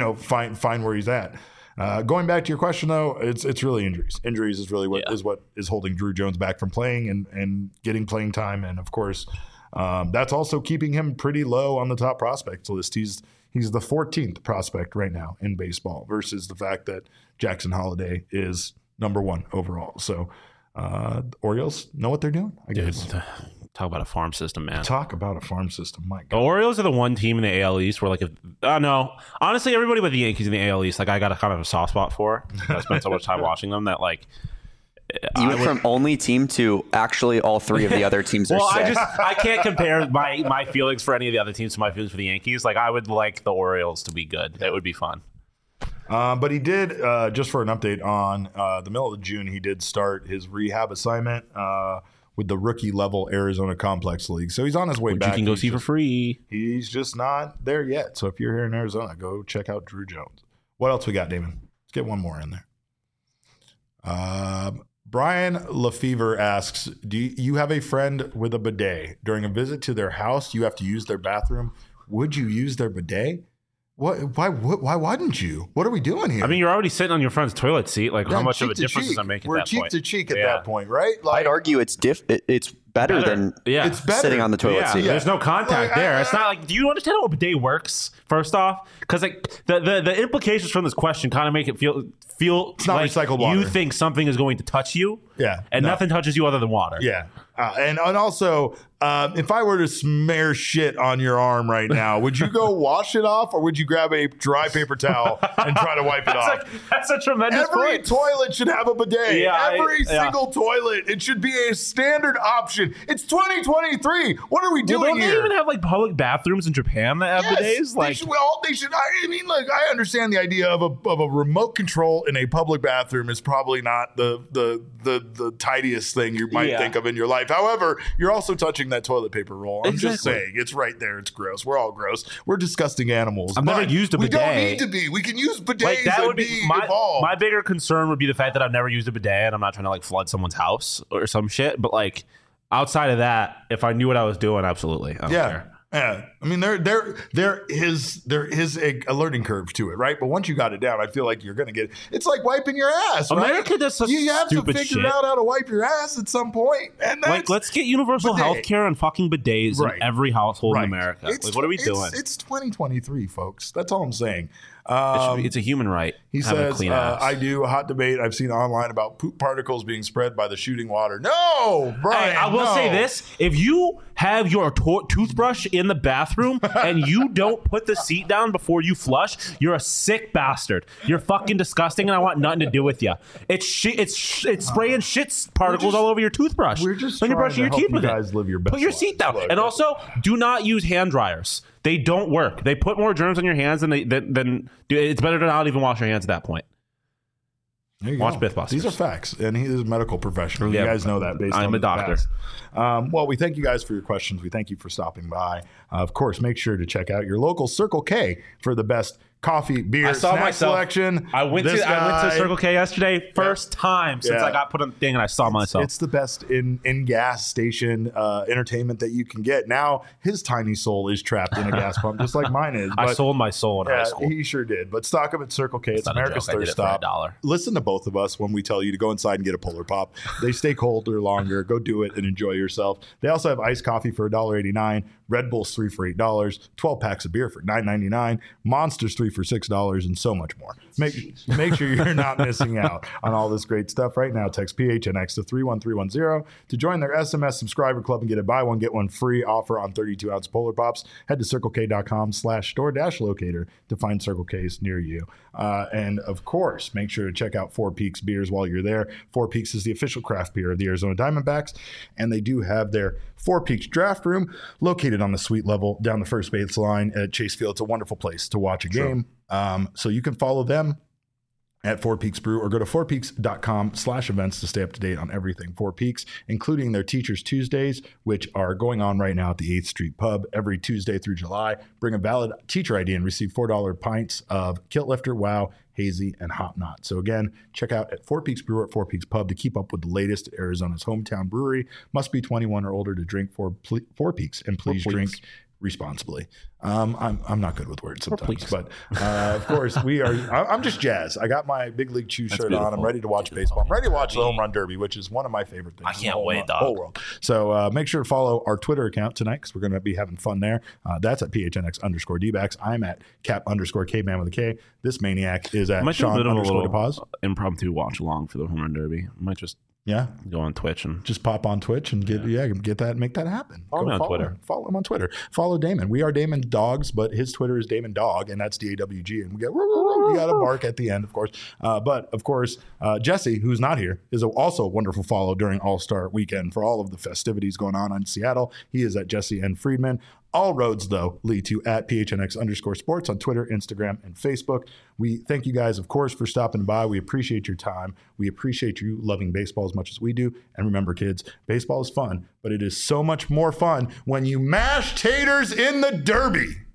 Speaker 1: where he's at. Going back to your question, though, it's really injuries. Injuries is really what is holding Drew Jones back from playing and getting playing time, and of course, that's also keeping him pretty low on the top prospects list. He's the 14th prospect right now in baseball, versus the fact that Jackson Holiday is number 1 overall. So the Orioles know what they're doing, I guess.
Speaker 2: Dude, talk about a farm system, man.
Speaker 1: Talk about a farm system, my God.
Speaker 2: The Orioles are the one team in the AL East where, like, no, honestly, everybody but the Yankees in the AL East, like, I got a kind of a soft spot for. I spent so much time watching them that, like,
Speaker 3: you went from only team to actually all 3 of the other teams are sick.
Speaker 2: I can't compare my feelings for any of the other teams to my feelings for the Yankees. Like, I would like the Orioles to be good. That would be fun.
Speaker 1: But he did, just for an update on the middle of June, he did start his rehab assignment with the rookie level Arizona Complex League. So he's on his way back.
Speaker 2: You can go see for free.
Speaker 1: He's just not there yet. So if you're here in Arizona, go check out Drew Jones. What else we got, Damon? Let's get one more in there. Brian Lefevre asks, do you have a friend with a bidet? During a visit to their house, you have to use their bathroom. Would you use their bidet? What? Why wouldn't you? What are we doing here?
Speaker 2: I mean, you're already sitting on your friend's toilet seat. Like, how much of a difference does that make at that point?
Speaker 1: We're cheek to cheek at that point, right?
Speaker 3: Like, I'd argue it's better than sitting on the toilet seat.
Speaker 2: There's no contact there. It's not like, do you understand how a bidet works, first off? Because like the implications from this question kind of make it feel
Speaker 1: it's not
Speaker 2: like
Speaker 1: recycled water.
Speaker 2: You think something is going to touch you.
Speaker 1: Yeah.
Speaker 2: And nothing touches you other than water.
Speaker 1: Yeah. And also, if I were to smear shit on your arm right now, would you go wash it off, or would you grab a dry paper towel and try to wipe it off?
Speaker 2: That's a tremendous point.
Speaker 1: Every toilet should have a bidet. Every single toilet. It should be a standard option. question. It's 2023. What are we doing
Speaker 2: here? Don't they even have like public bathrooms in Japan that have bidets?
Speaker 1: Like, they should. I mean, look, I understand the idea of a remote control in a public bathroom is probably not the tidiest thing you might think of in your life. However, you're also touching that toilet paper roll. I'm just saying, it's right there. It's gross. We're all gross. We're disgusting animals.
Speaker 2: I've never used a bidet.
Speaker 1: We don't need to be. We can use bidets.
Speaker 2: Like, that would be my bigger concern would be the fact that I've never used a bidet and I'm not trying to like flood someone's house or some shit. But like outside of that, if I knew what I was doing, absolutely. I don't care.
Speaker 1: Yeah, I mean there is a learning curve to it, right? But once you got it down, I feel like you're gonna get. It's like wiping your ass, right?
Speaker 2: America does such
Speaker 1: you have
Speaker 2: stupid
Speaker 1: to figure
Speaker 2: shit.
Speaker 1: out how to wipe your ass at some point, and
Speaker 2: like let's get universal health care and fucking bidets in every household in America. Like, what are we doing?
Speaker 1: It's 2023, folks. That's all I'm saying.
Speaker 2: It's a human right.
Speaker 1: He says, I do a hot debate I've seen online about poop particles being spread by the shooting water. No, Brian,
Speaker 2: I will say this. If you have your toothbrush in the bathroom and you don't put the seat down before you flush, you're a sick bastard. You're fucking disgusting and I want nothing to do with you. It's spraying shit particles all over your toothbruch.
Speaker 1: We're just
Speaker 2: when you're brushing your teeth with
Speaker 1: it. Live your best
Speaker 2: put your seat down. And also, do not use hand dryers. They don't work. They put more germs on your hands than it's better to not even wash your hands at that point. Watch Mythbusters.
Speaker 1: These are facts, and he is a medical professional. You guys know that.
Speaker 2: I'm a doctor.
Speaker 1: Well, we thank you guys for your questions. We thank you for stopping by. Of course, make sure to check out your local Circle K for the best coffee, beer, snack selection.
Speaker 2: I went to Circle K yesterday, first time since I got put on the thing, and I saw myself.
Speaker 1: It's the best in gas station entertainment that you can get. Now his tiny soul is trapped in a gas pump, just like mine is.
Speaker 2: I sold my soul in high school.
Speaker 1: He sure did. But stock up at Circle K. It's America's thirst stop. Listen to both of us when we tell you to go inside and get a Polar Pop. They stay colder longer. Go do it and enjoy yourself. They also have iced coffee for $1.89. Red Bull's 3 for $8, 12 packs of beer for $9.99, Monsters 3 for $6, and so much more. Make sure you're not missing out on all this great stuff right now. Text PHNX to 31310 to join their SMS subscriber club and get a buy one, get one free offer on 32-ounce Polar Pops. Head to circlek.com/store-locator to find Circle K's near you. And of course, make sure to check out Four Peaks beers while you're there. Four Peaks is the official craft beer of the Arizona Diamondbacks, and they do have their Four Peaks draft room located on the suite level down the first base line at Chase Field. It's a wonderful place to watch a game. So you can follow them at Four Peaks Brew or go to fourpeaks.com/events to stay up to date on everything Four Peaks, including their Teachers Tuesdays, which are going on right now at the 8th Street Pub every Tuesday through July. Bring a valid teacher ID and receive $4 pints of Kilt Lifter, Wow, Hazy, and Hop Knot. So again, check out at Four Peaks Brew at Four Peaks Pub to keep up with the latest at Arizona's hometown brewery. Must be 21 or older to drink Four Peaks, and please drink responsibly. I'm not good with words sometimes, but of course I'm just jazzed. I got my Big League Chew shirt on. I'm ready to watch baseball. I'm ready to watch the Home Run Derby, which is one of my favorite things.
Speaker 2: I can't wait, dog.
Speaker 1: Whole world. So make sure to follow our Twitter account tonight because we're going to be having fun there. That's at PHNX_DBacks. I'm at Cap_Kman with a K. This maniac is at Sean_DePaz.
Speaker 2: Impromptu watch along for the Home Run Derby. I might just go on Twitch and
Speaker 1: just pop on Twitch and get that, make that happen.
Speaker 2: Follow me on Twitter.
Speaker 1: Follow him on Twitter. Follow Damon. We are Damon Dogs, but his Twitter is Damon Dog, and that's DAWG. And we got a bark at the end, of course. But of course, Jesse, who's not here, is also a wonderful follow during All-Star Weekend for all of the festivities going on in Seattle. He is at Jesse N. Friedman. All roads, though, lead to at PHNX_sports on Twitter, Instagram, and Facebook. We thank you guys, of course, for stopping by. We appreciate your time. We appreciate you loving baseball as much as we do. And remember, kids, baseball is fun, but it is so much more fun when you mash taters in the Derby.